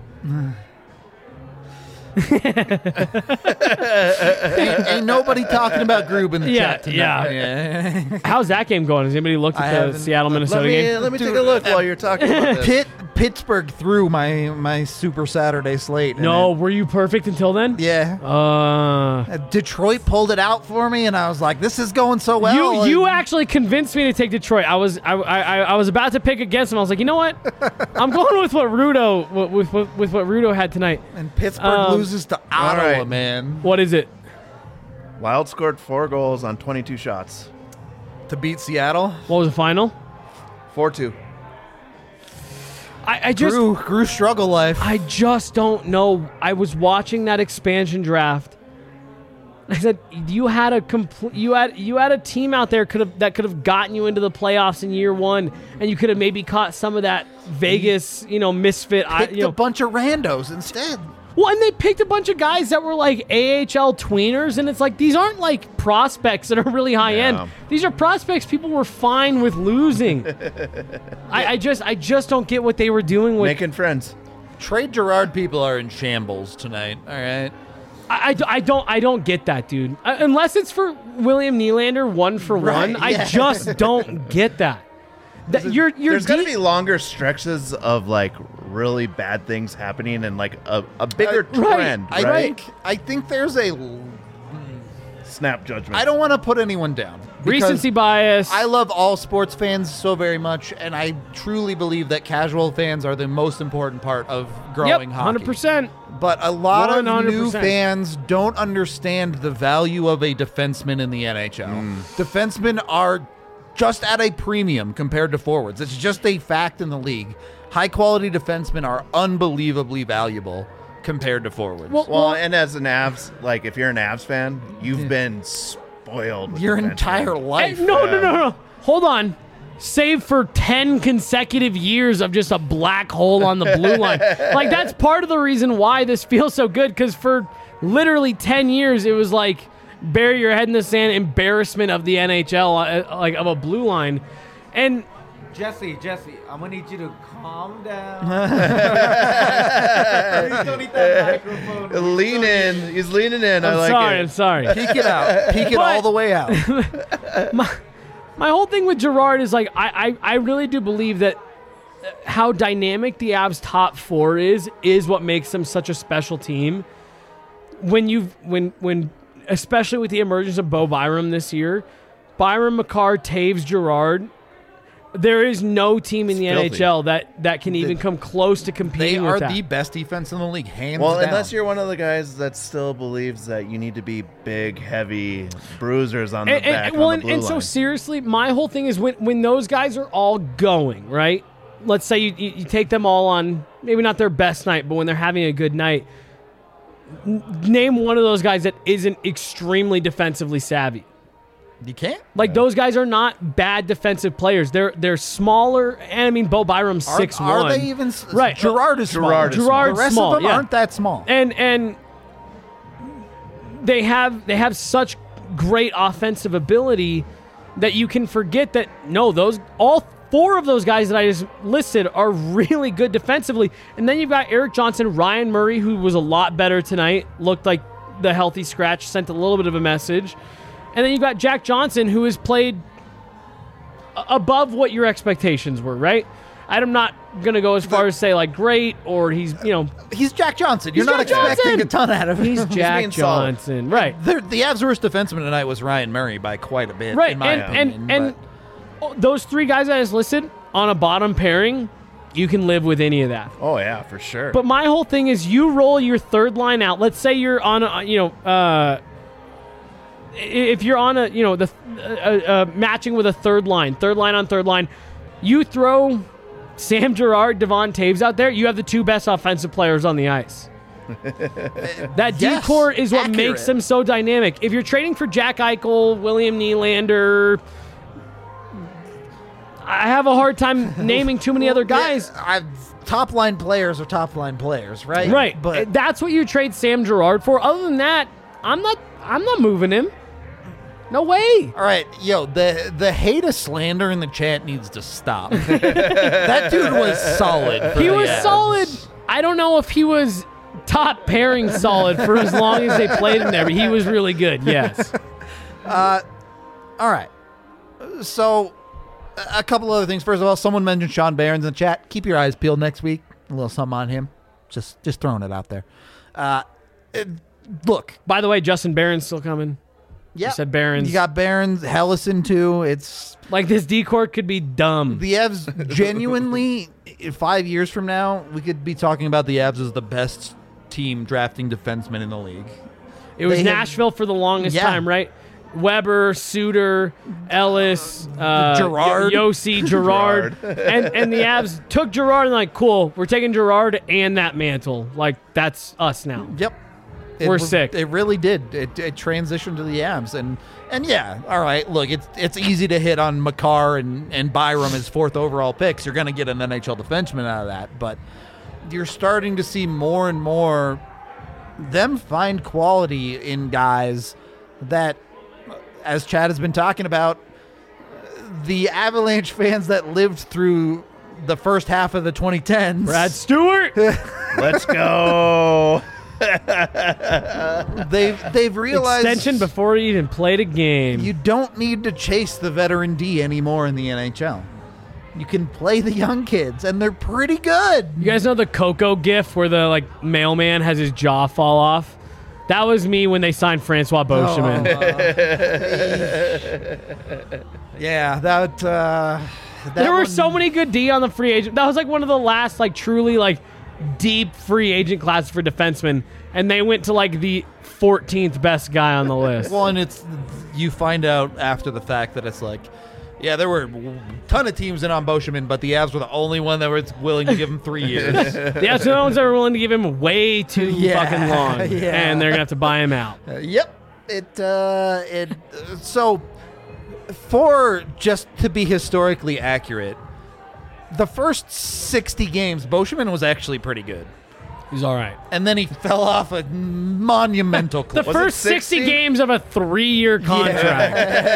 ain't, ain't nobody talking about Grube in the Yeah, chat tonight. yeah. yeah. How's that game going? Has anybody looked I at the haven't. Seattle Minnesota Let me, game? let me take Dude, a look while you're talking about this. Pitt, Pittsburgh threw my my Super Saturday slate. and No, it- were you perfect until then? yeah. Uh, Detroit pulled it out for me, and I was like, "This is going so well." you you and- actually convinced me to take Detroit. I was I, I I was about to pick against them. I was like, you know what? I'm going with what Rudo with with, with what Rudo had tonight. and Pittsburgh Um, loses to Ottawa, right. man, What is it? Wild scored four goals on twenty-two shots. to beat Seattle. What was the final? four two. I, I just Grew, grew struggle life. I just don't know. I was watching that expansion draft. I said you had a complete you had you had a team out there could have that could have gotten you into the playoffs in year one, and you could have maybe caught some of that Vegas, you know, misfit. I, Picked you know, a bunch of randos instead. well, and they picked a bunch of guys that were like A H L tweeners, and it's like these aren't like prospects that are really high Yeah. end. These are prospects people were fine with losing. I, I just I just don't get what they were doing with. Making friends. Trade Gerard people are in shambles tonight. All right. I, I, I don't I don't get that, dude. Uh, unless it's for William Nylander one for Right, one, I yeah. just don't get that. That you're you're There's going to deep- be longer stretches of like really bad things happening and like a, a bigger Uh, right. trend, I right? think I think there's a. Snap judgment. I don't want to put anyone down. because recency bias. I love all sports fans so very much, and I truly believe that casual fans are the most important part of yep, growing one hockey. hundred percent. But a lot of one hundred new percent. fans don't understand the value of a defenseman in the N H L. Defensemen are just at a premium compared to forwards. It's just a fact in the league. High quality defensemen are unbelievably valuable compared to forwards. Well, Well, and as an Avs, like if you're an Avs fan, you've been spoiled with Your defensemen. entire Hey, life. no, no, no, no. Hold on. Save for ten consecutive years of just a black hole on the blue line. Like, that's part of the reason why this feels so good, because for literally ten years, it was like bury your head in the sand embarrassment of the N H L, uh, like of a blue line. And Jesse, Jesse, I'm gonna need you to calm down. Please don't eat that microphone. Lean in. He's leaning in. I I'm like sorry, it. I'm sorry. Peek it out. Peek it But- all the way out. My whole thing with Gerard is like I, I, I really do believe that how dynamic the Avs top four is is what makes them such a special team. When you when when especially with the emergence of Bo Byram this year, Byram, McCarr, Taves, Gerard, there is no team in the It's N H L filthy. that, that can even come close to They competing are with that. the best defense in the league, hands Well, down. unless you're one of the guys that still believes that you need to be big, heavy bruisers on the and, and- back. well, on and, the blue and so line. seriously, my whole thing is when when those guys are all going, right? Let's say you, you, you take them all on maybe not their best night, but when they're having a good night, n- name one of those guys that isn't extremely defensively savvy. you can't. Like those guys are not bad defensive players. They're they're smaller, and I mean Bo Byram's Are, six are one. they even s- Right. Gerard is small. Gerard is small. Gerard's the rest small, of them yeah. aren't that small. and and they have they have such great offensive ability that you can forget that no, those all four of those guys that I just listed are really good defensively. And then you've got Eric Johnson, Ryan Murray, who was a lot better tonight, looked like the healthy scratch, sent a little bit of a message. And then you've got Jack Johnson, who has played a- above what your expectations were, right? I'm not going to go as far as say like great or he's, you know, He's Jack Johnson. You're He's not Jack expecting Johnson. a ton out of him. he's Jack being solid. Johnson, right? The, the Avs' worst defenseman tonight was Ryan Murray by quite a bit, Right, in my and opinion. and and those three guys I just listed on a bottom pairing, you can live with any of that. Oh yeah, for sure. But my whole thing is, you roll your third line out. Let's say you're on, a, you know, uh, if you're on a, you know, the uh, uh, matching with a third line, third line on third line, you throw Sam Girard, Devon Taves out there, you have the two best offensive players on the ice. That Yes, D-core is what accurate. makes them so dynamic. If you're trading for Jack Eichel, William Nylander, I have a hard time naming too many other guys. Yeah, I, top line players are top line players, right? Right, But that's what you trade Sam Girard for. Other than that, I'm not. I'm not moving him. No way. all right, yo, the the hate of slander in the chat needs to stop. That dude was solid. for He the was Avs. solid. I don't know if he was top pairing solid for as long as they played in there, but he was really good. Yes. All right. So, a- a couple other things. First of all, someone mentioned Sean Barons in the chat. Keep your eyes peeled next week. A little something on him. Just just throwing it out there. Uh, it- look, By the way, Justin Barron's still coming. yeah, said Barons. You got Barons, Hellison too. It's Like this D-core could be dumb. the Avs. Genuinely, in five years from now, we could be talking about the Avs as the best team drafting defensemen in the league. It was They have- Nashville for the longest Yeah. time, right? Weber, Suter, Ellis, uh, Girard. Yo- Yossi, Girard, and and the Avs took Girard and like, cool, we're taking Girard and that mantle. Like that's us now. Yep. It We're was- sick. It really did. It, it transitioned to the Avs, and and yeah, all right. Look, it's it's easy to hit on Makar and and Byram as fourth overall picks. You're going to get an N H L defenseman out of that, but you're starting to see more and more them find quality in guys that, as Chad has been talking about, the Avalanche fans that lived through the first half of the twenty tens. Brad Stewart. Let's go. They've they've realized Extension before he even played a game. you don't need to chase the veteran D anymore in the N H L. You can play the young kids, and they're pretty good. You guys know the Coco gif where the like mailman has his jaw fall off? That was me when they signed Francois Beauchemin. Yeah, that. Uh, that There were one- so many good D on the free agent. That was like one of the last like truly like deep free agent classes for defensemen, and they went to like the fourteenth best guy on the list. Well, and it's you find out after the fact that it's like, yeah, there were a ton of teams in on Beauchemin, but the Avs were the only one that was willing to give him three years. The Astros are willing to give him way too Yeah, fucking long, yeah. and they're gonna have to buy him out. Uh, yep. It uh it uh, so for just to be historically accurate, the first sixty games Beauchemin was actually pretty good. He's all right. And then he fell off a monumental The cliff. Was it first sixty sixty? games of a three-year contract.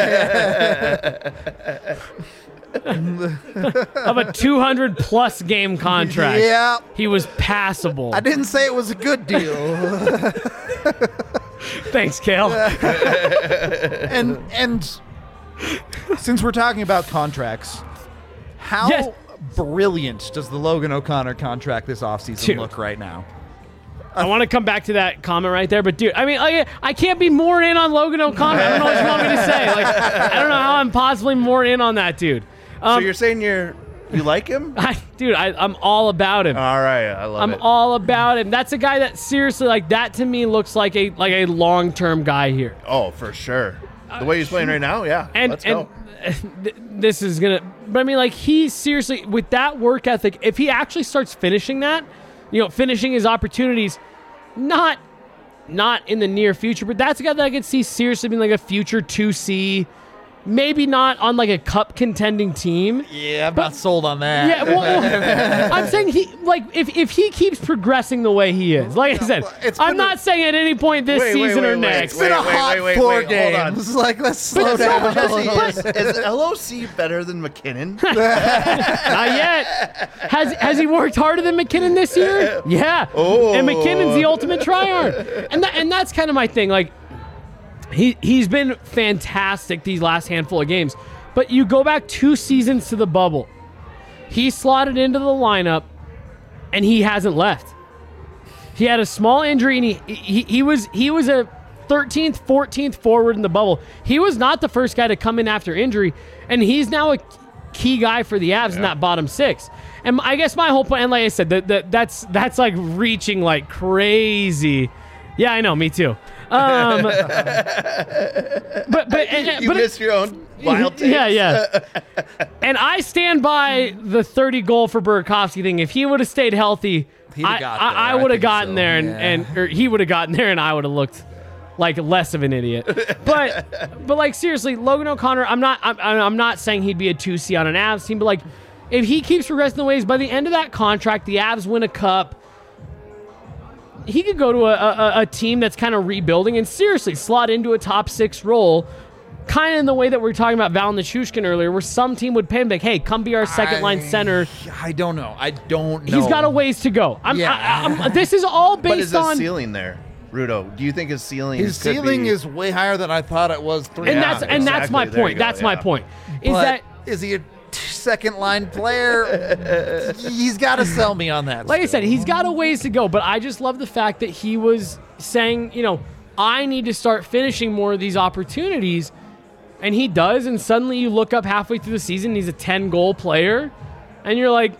Of a two hundred plus game contract. Yeah. He was passable. I didn't say it was a good deal. Thanks, Kale. and and since we're talking about contracts, how Yes. brilliant does the Logan O'Connor contract this offseason Dude. look right now? I want to come back to that comment right there, but dude, I mean, like, I can't be more in on Logan O'Connor. I don't know what you want me to say. Like, I don't know how I'm possibly more in on that dude. So Um, you're saying you're you like him? I, dude, I, I'm all about him. All right, I love I'm it. all about him. That's a guy that seriously, like, that to me looks like a like a long term guy here. oh, for sure. The way he's playing right now, yeah. And Let's and go. th- this is gonna, but I mean, like, he seriously with that work ethic, if he actually starts finishing that, you know, finishing his opportunities, not not in the near future, but that's a guy that I could see seriously being like a future two C, maybe not on like a cup contending team. Yeah, I'm But- not sold on that. Yeah, well, well, I'm saying he like if, if he keeps progressing the way he is, like I said, It's I'm been not saying at any point this Wait, wait, season wait, or wait, next. It's been a Wait, wait, hot wait, wait, four wait, hold on. games. Like, let's slow But down. Jesse, is, is L O C better than McKinnon? Not yet. Has has he worked harder than McKinnon this year? Yeah. Oh. And McKinnon's the ultimate tryhard. And that, and that's kind of my thing. Like he he's been fantastic these last handful of games. But you go back two seasons to the bubble. He slotted into the lineup and he hasn't left. He had a small injury and he he, he was he was a thirteenth, fourteenth forward in the bubble. He was not the first guy to come in after injury, and he's now a key guy for the Avs in that bottom six. And I guess my whole point, and like I said, that, that that's that's like reaching like crazy. Yeah, I know, me too. Um, but but but and, you but missed your own wild takes. Yeah, yeah. And I stand by the thirty goal for Burakovsky thing. If he would have stayed healthy, He'd I, have got I, there. I I would have think gotten so. there, and, Yeah. and or he would have gotten there, and I would have looked like less of an idiot. But but like seriously, Logan O'Connor, I'm not I'm, I'm not saying he'd be a two C on an Avs team, but like if he keeps progressing the ways, by the end of that contract, the Avs win a cup. He could go to a, a, a team that's kind of rebuilding and seriously slot into a top six role, kind of in the way that we were talking about Val Nichushkin earlier, where some team would pay him like, hey, come be our second line I- center. I don't know. I don't know. He's got a ways to go. I'm, Yeah. I, I'm, this is all based But is his on. ceiling there, Rudo? Do you think his ceiling His could ceiling be- is way higher than I thought it was. Three. and Yeah, that's and that's my exactly. There you point. go, That's my yeah. point. Is But that is he a second line player? He's got to sell me on that. like I still. said, he's got a ways to go, but I just love the fact that he was saying, you know, I need to start finishing more of these opportunities. And he does, and suddenly you look up halfway through the season, he's a ten goal player, and you're like,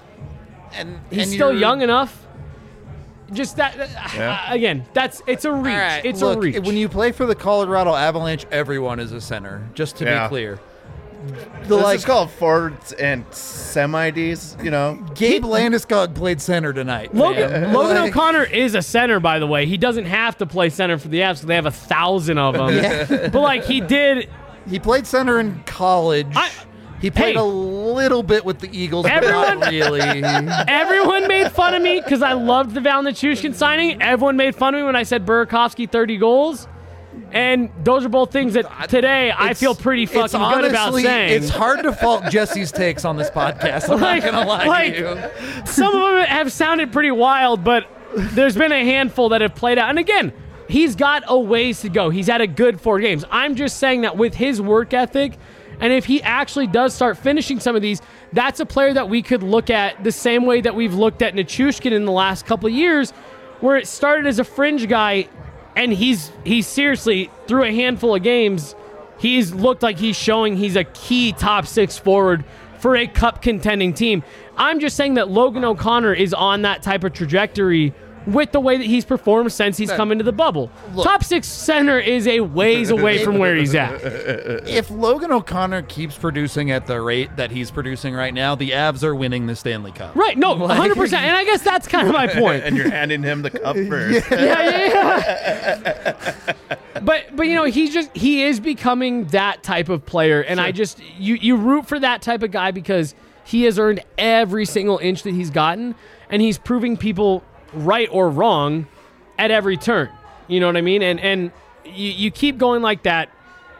and he's and still you're- young enough. Just that, Yeah. uh, again, that's it's a reach. All right, it's look, a reach. when you play for the Colorado Avalanche, everyone is a center. Just to Yeah. be clear, the This like is called forwards and semi-Ds, you know? Gabe Landeskog played center tonight. Logan, man. Logan Like, O'Connor is a center, by the way. He doesn't have to play center for the Avs because they have a thousand of them. Yeah. But like he did, He played center in college. I- he played Hey. a little bit with the Eagles, but Everyone- not really. everyone made fun of me because I loved the Val Nichushkin signing. Everyone made fun of me when I said Burakovsky thirty goals. And those are both things that today I It's- feel pretty it's fucking good about honestly- saying. It's hard to fault Jesse's takes on this podcast. I'm Like- not gonna lie like- to you. Some of them have sounded pretty wild, but there's been a handful that have played out. And again, he's got a ways to go. He's had a good four games. I'm just saying that with his work ethic, and if he actually does start finishing some of these, that's a player that we could look at the same way that we've looked at Nichushkin in the last couple of years, where it started as a fringe guy, and he's he's seriously, through a handful of games, he's looked like he's showing he's a key top six forward for a cup contending team. I'm just saying that Logan O'Connor is on that type of trajectory with the way that he's performed since he's come into the bubble. Look- Top six center is a ways away from where he's at. If Logan O'Connor keeps producing at the rate that he's producing right now, the Avs are winning the Stanley Cup. Right, no, one hundred percent. And I guess that's kind of my point. And you're handing him the cup first. yeah, yeah, yeah. but but you know, he's just he is becoming that type of player, and I just you you root for that type of guy because he has earned every single inch that he's gotten, and he's proving people right or wrong at every turn. You know what I mean? And and you, you keep going like that.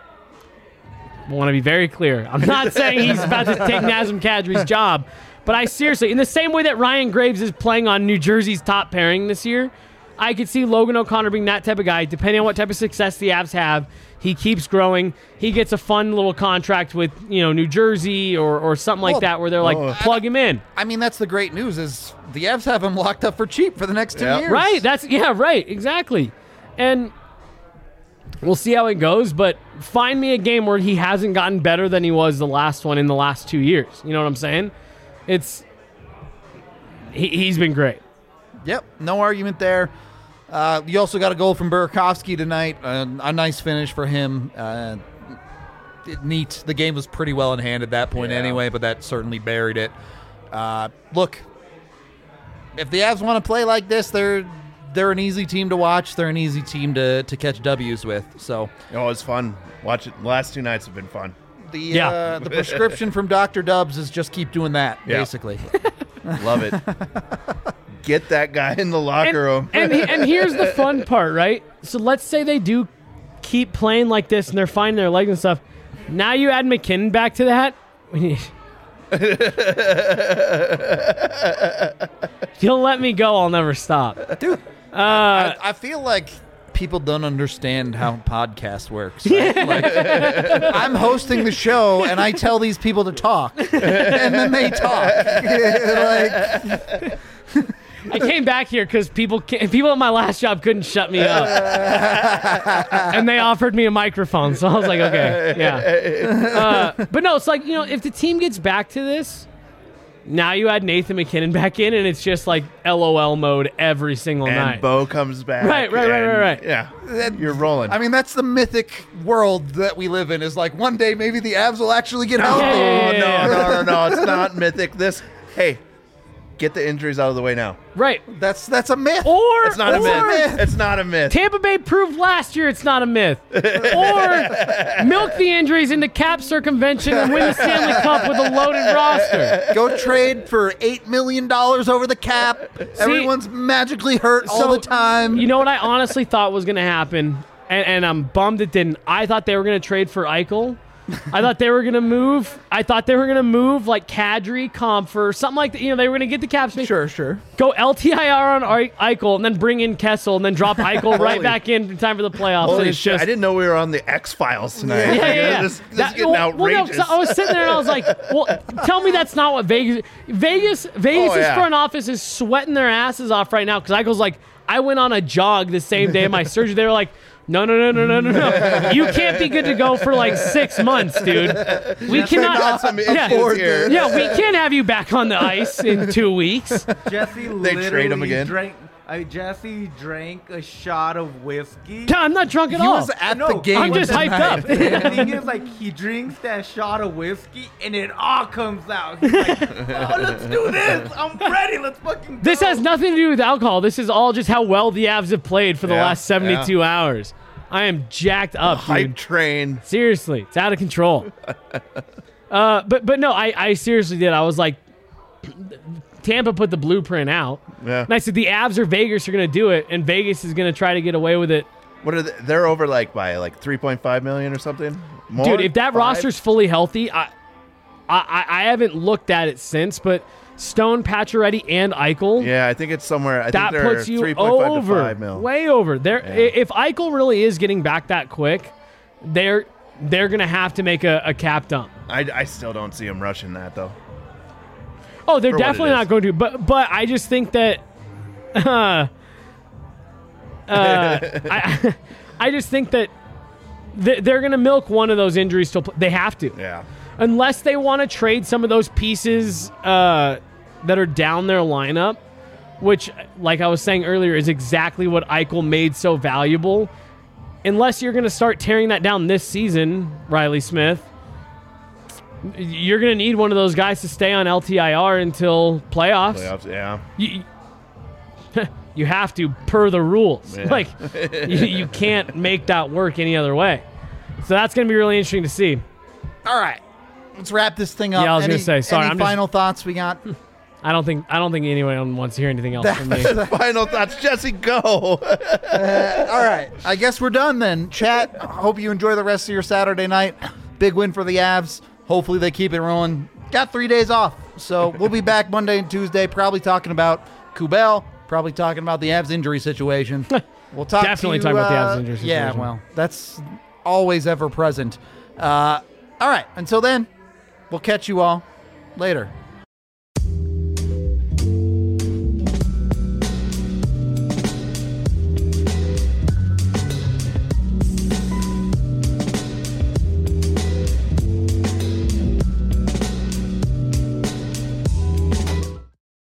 I want to be very clear. I'm not saying he's about to take Nazem Kadri's job, but I seriously, in the same way that Ryan Graves is playing on New Jersey's top pairing this year, I could see Logan O'Connor being that type of guy. Depending on what type of success the Avs have, he keeps growing. He gets a fun little contract with, you know, New Jersey or, or something like Well, that where they're like, oh. plug him in. I mean, that's the great news is the Avs have him locked up for cheap for the next two Yeah. years. Right. That's yeah, right. Exactly. And we'll see how it goes, but find me a game where he hasn't gotten better than he was the last one in the last two years. You know what I'm saying? It's he, he's been great. Yep, no argument there. Uh, you also got a goal from Burakovsky tonight. Uh, a nice finish for him. Uh, it- neat. The game was pretty well in hand at that point Yeah. anyway, but that certainly buried it. Uh, look, if the Avs want to play like this, they're they're an easy team to watch. They're an easy team to, to catch W's with. So Oh, it's fun. Watch it. The last two nights have been fun. the Yeah. uh, the prescription from Doctor Dubs is just keep doing that, Yeah. basically. Love it. Get that guy in the locker room. And, and, and here's the fun part, right? So let's say they do keep playing like this and they're finding their legs and stuff. Now you add McKinnon back to that. If you'll let me go, I'll never stop. Dude, I, I feel like people don't understand how podcast works. Right? Like, I'm hosting the show and I tell these people to talk, and then they talk. Like, I came back here because people ca- people at my last job couldn't shut me up, and they offered me a microphone. So I was like, okay, yeah. Uh, but no, it's like, you know, if the team gets back to this, Now you add Nathan McKinnon back in, and it's just like L O L mode every single And night. Bo comes back. Right, right, right, and- right, right. Yeah, you're rolling. I mean, that's the mythic world that we live in. Is like one day maybe the Avs will actually get healthy. Yeah, yeah, oh yeah, no, yeah. no, no, no! It's not mythic. This, hey, get the injuries out of the way now. Right. That's that's a myth. Or It's not a or myth. It's not a myth. Tampa Bay proved last year it's not a myth. Or milk the injuries into cap circumvention and win the Stanley Cup with a loaded roster. Go trade for eight million dollars over the cap. Everyone's magically hurt all So, the time. You know what I honestly thought was going to happen, and, and I'm bummed it didn't. I thought they were going to trade for Eichel. I thought they were going to move. I thought they were going to move like Kadri, Comfer, something like that. You know, they were going to get the cap space. Sure, sure. Go L T I R on Ei- Eichel, and then bring in Kessel, and then drop Eichel right Holy- back in in time for the playoffs. and Holy it's shit! just, I didn't know we were on the X Files tonight. Yeah, yeah, yeah. This, this That- is getting well, well, no, outrageous. 'cause I was sitting there and I was like, well, tell me that's not what Vegas Vegas Vegas' Oh, yeah. front office is sweating their asses off right now because Eichel's like, I went on a jog the same day of my surgery. They were like, no, no, no, no, no, no, no. You can't be good to go for like six months, dude. We cannot. got some issues yeah, here. yeah, we can't have you back on the ice in two weeks. Jesse They trade literally him again? drank. I Jesse drank a shot of whiskey. I'm not drunk at He all. was at No, the game. I'm just hyped tonight. up. The thing is, like, he drinks that shot of whiskey and it all comes out. He's like, oh, let's do this. I'm ready. Let's fucking go. This has nothing to do with alcohol. This is all just how well the Avs have played for the Yeah, last seventy-two hours. I am jacked up, Hype dude. train. Seriously, it's out of control. uh, but but no, I, I seriously did. I was like, Tampa put the blueprint out. Yeah. And I said the Avs or Vegas are going to do it, and Vegas is going to try to get away with it. What are they? They're over like by like three point five million or something. More? Dude, if that Five? roster's fully healthy, I, I I haven't looked at it since, but Stone, Pacioretty, and Eichel. Yeah, I think it's somewhere. I that think they're puts you three point five over, to five mil. way over. There, Yeah. if Eichel really is getting back that quick, they're they're gonna have to make a, a cap dump. I, I still don't see them rushing that though. Oh, they're For what it definitely is. not going to. But but I just think that, uh, uh, I I just think that th- they're gonna milk one of those injuries till pl- they have to. Yeah. Unless they want to trade some of those pieces uh, that are down their lineup, which, like I was saying earlier, is exactly what Eichel made so valuable. Unless you're going to start tearing that down this season, Riley Smith, you're going to need one of those guys to stay on L T I R until playoffs. Playoffs. Yeah. You, you have to, per the rules. Yeah. Like, you, you can't make that work any other way. So that's going to be really interesting to see. All right, let's wrap this thing up. Yeah, I was Any- gonna say, sorry, Any I'm just- final thoughts we got? I don't think I don't think anyone wants to hear anything else from me. Final thoughts, Jesse. Go. All right, I guess we're done then. Chat, hope you enjoy the rest of your Saturday night. Big win for the Avs. Hopefully they keep it rolling. Got three days off, so we'll be back Monday and Tuesday, probably talking about Kubel, probably talking about the Avs injury situation. We'll talk Definitely to you, talking about the uh, Avs injury Yeah, situation. well, that's always ever present. Uh, all right, until then, we'll catch you all later.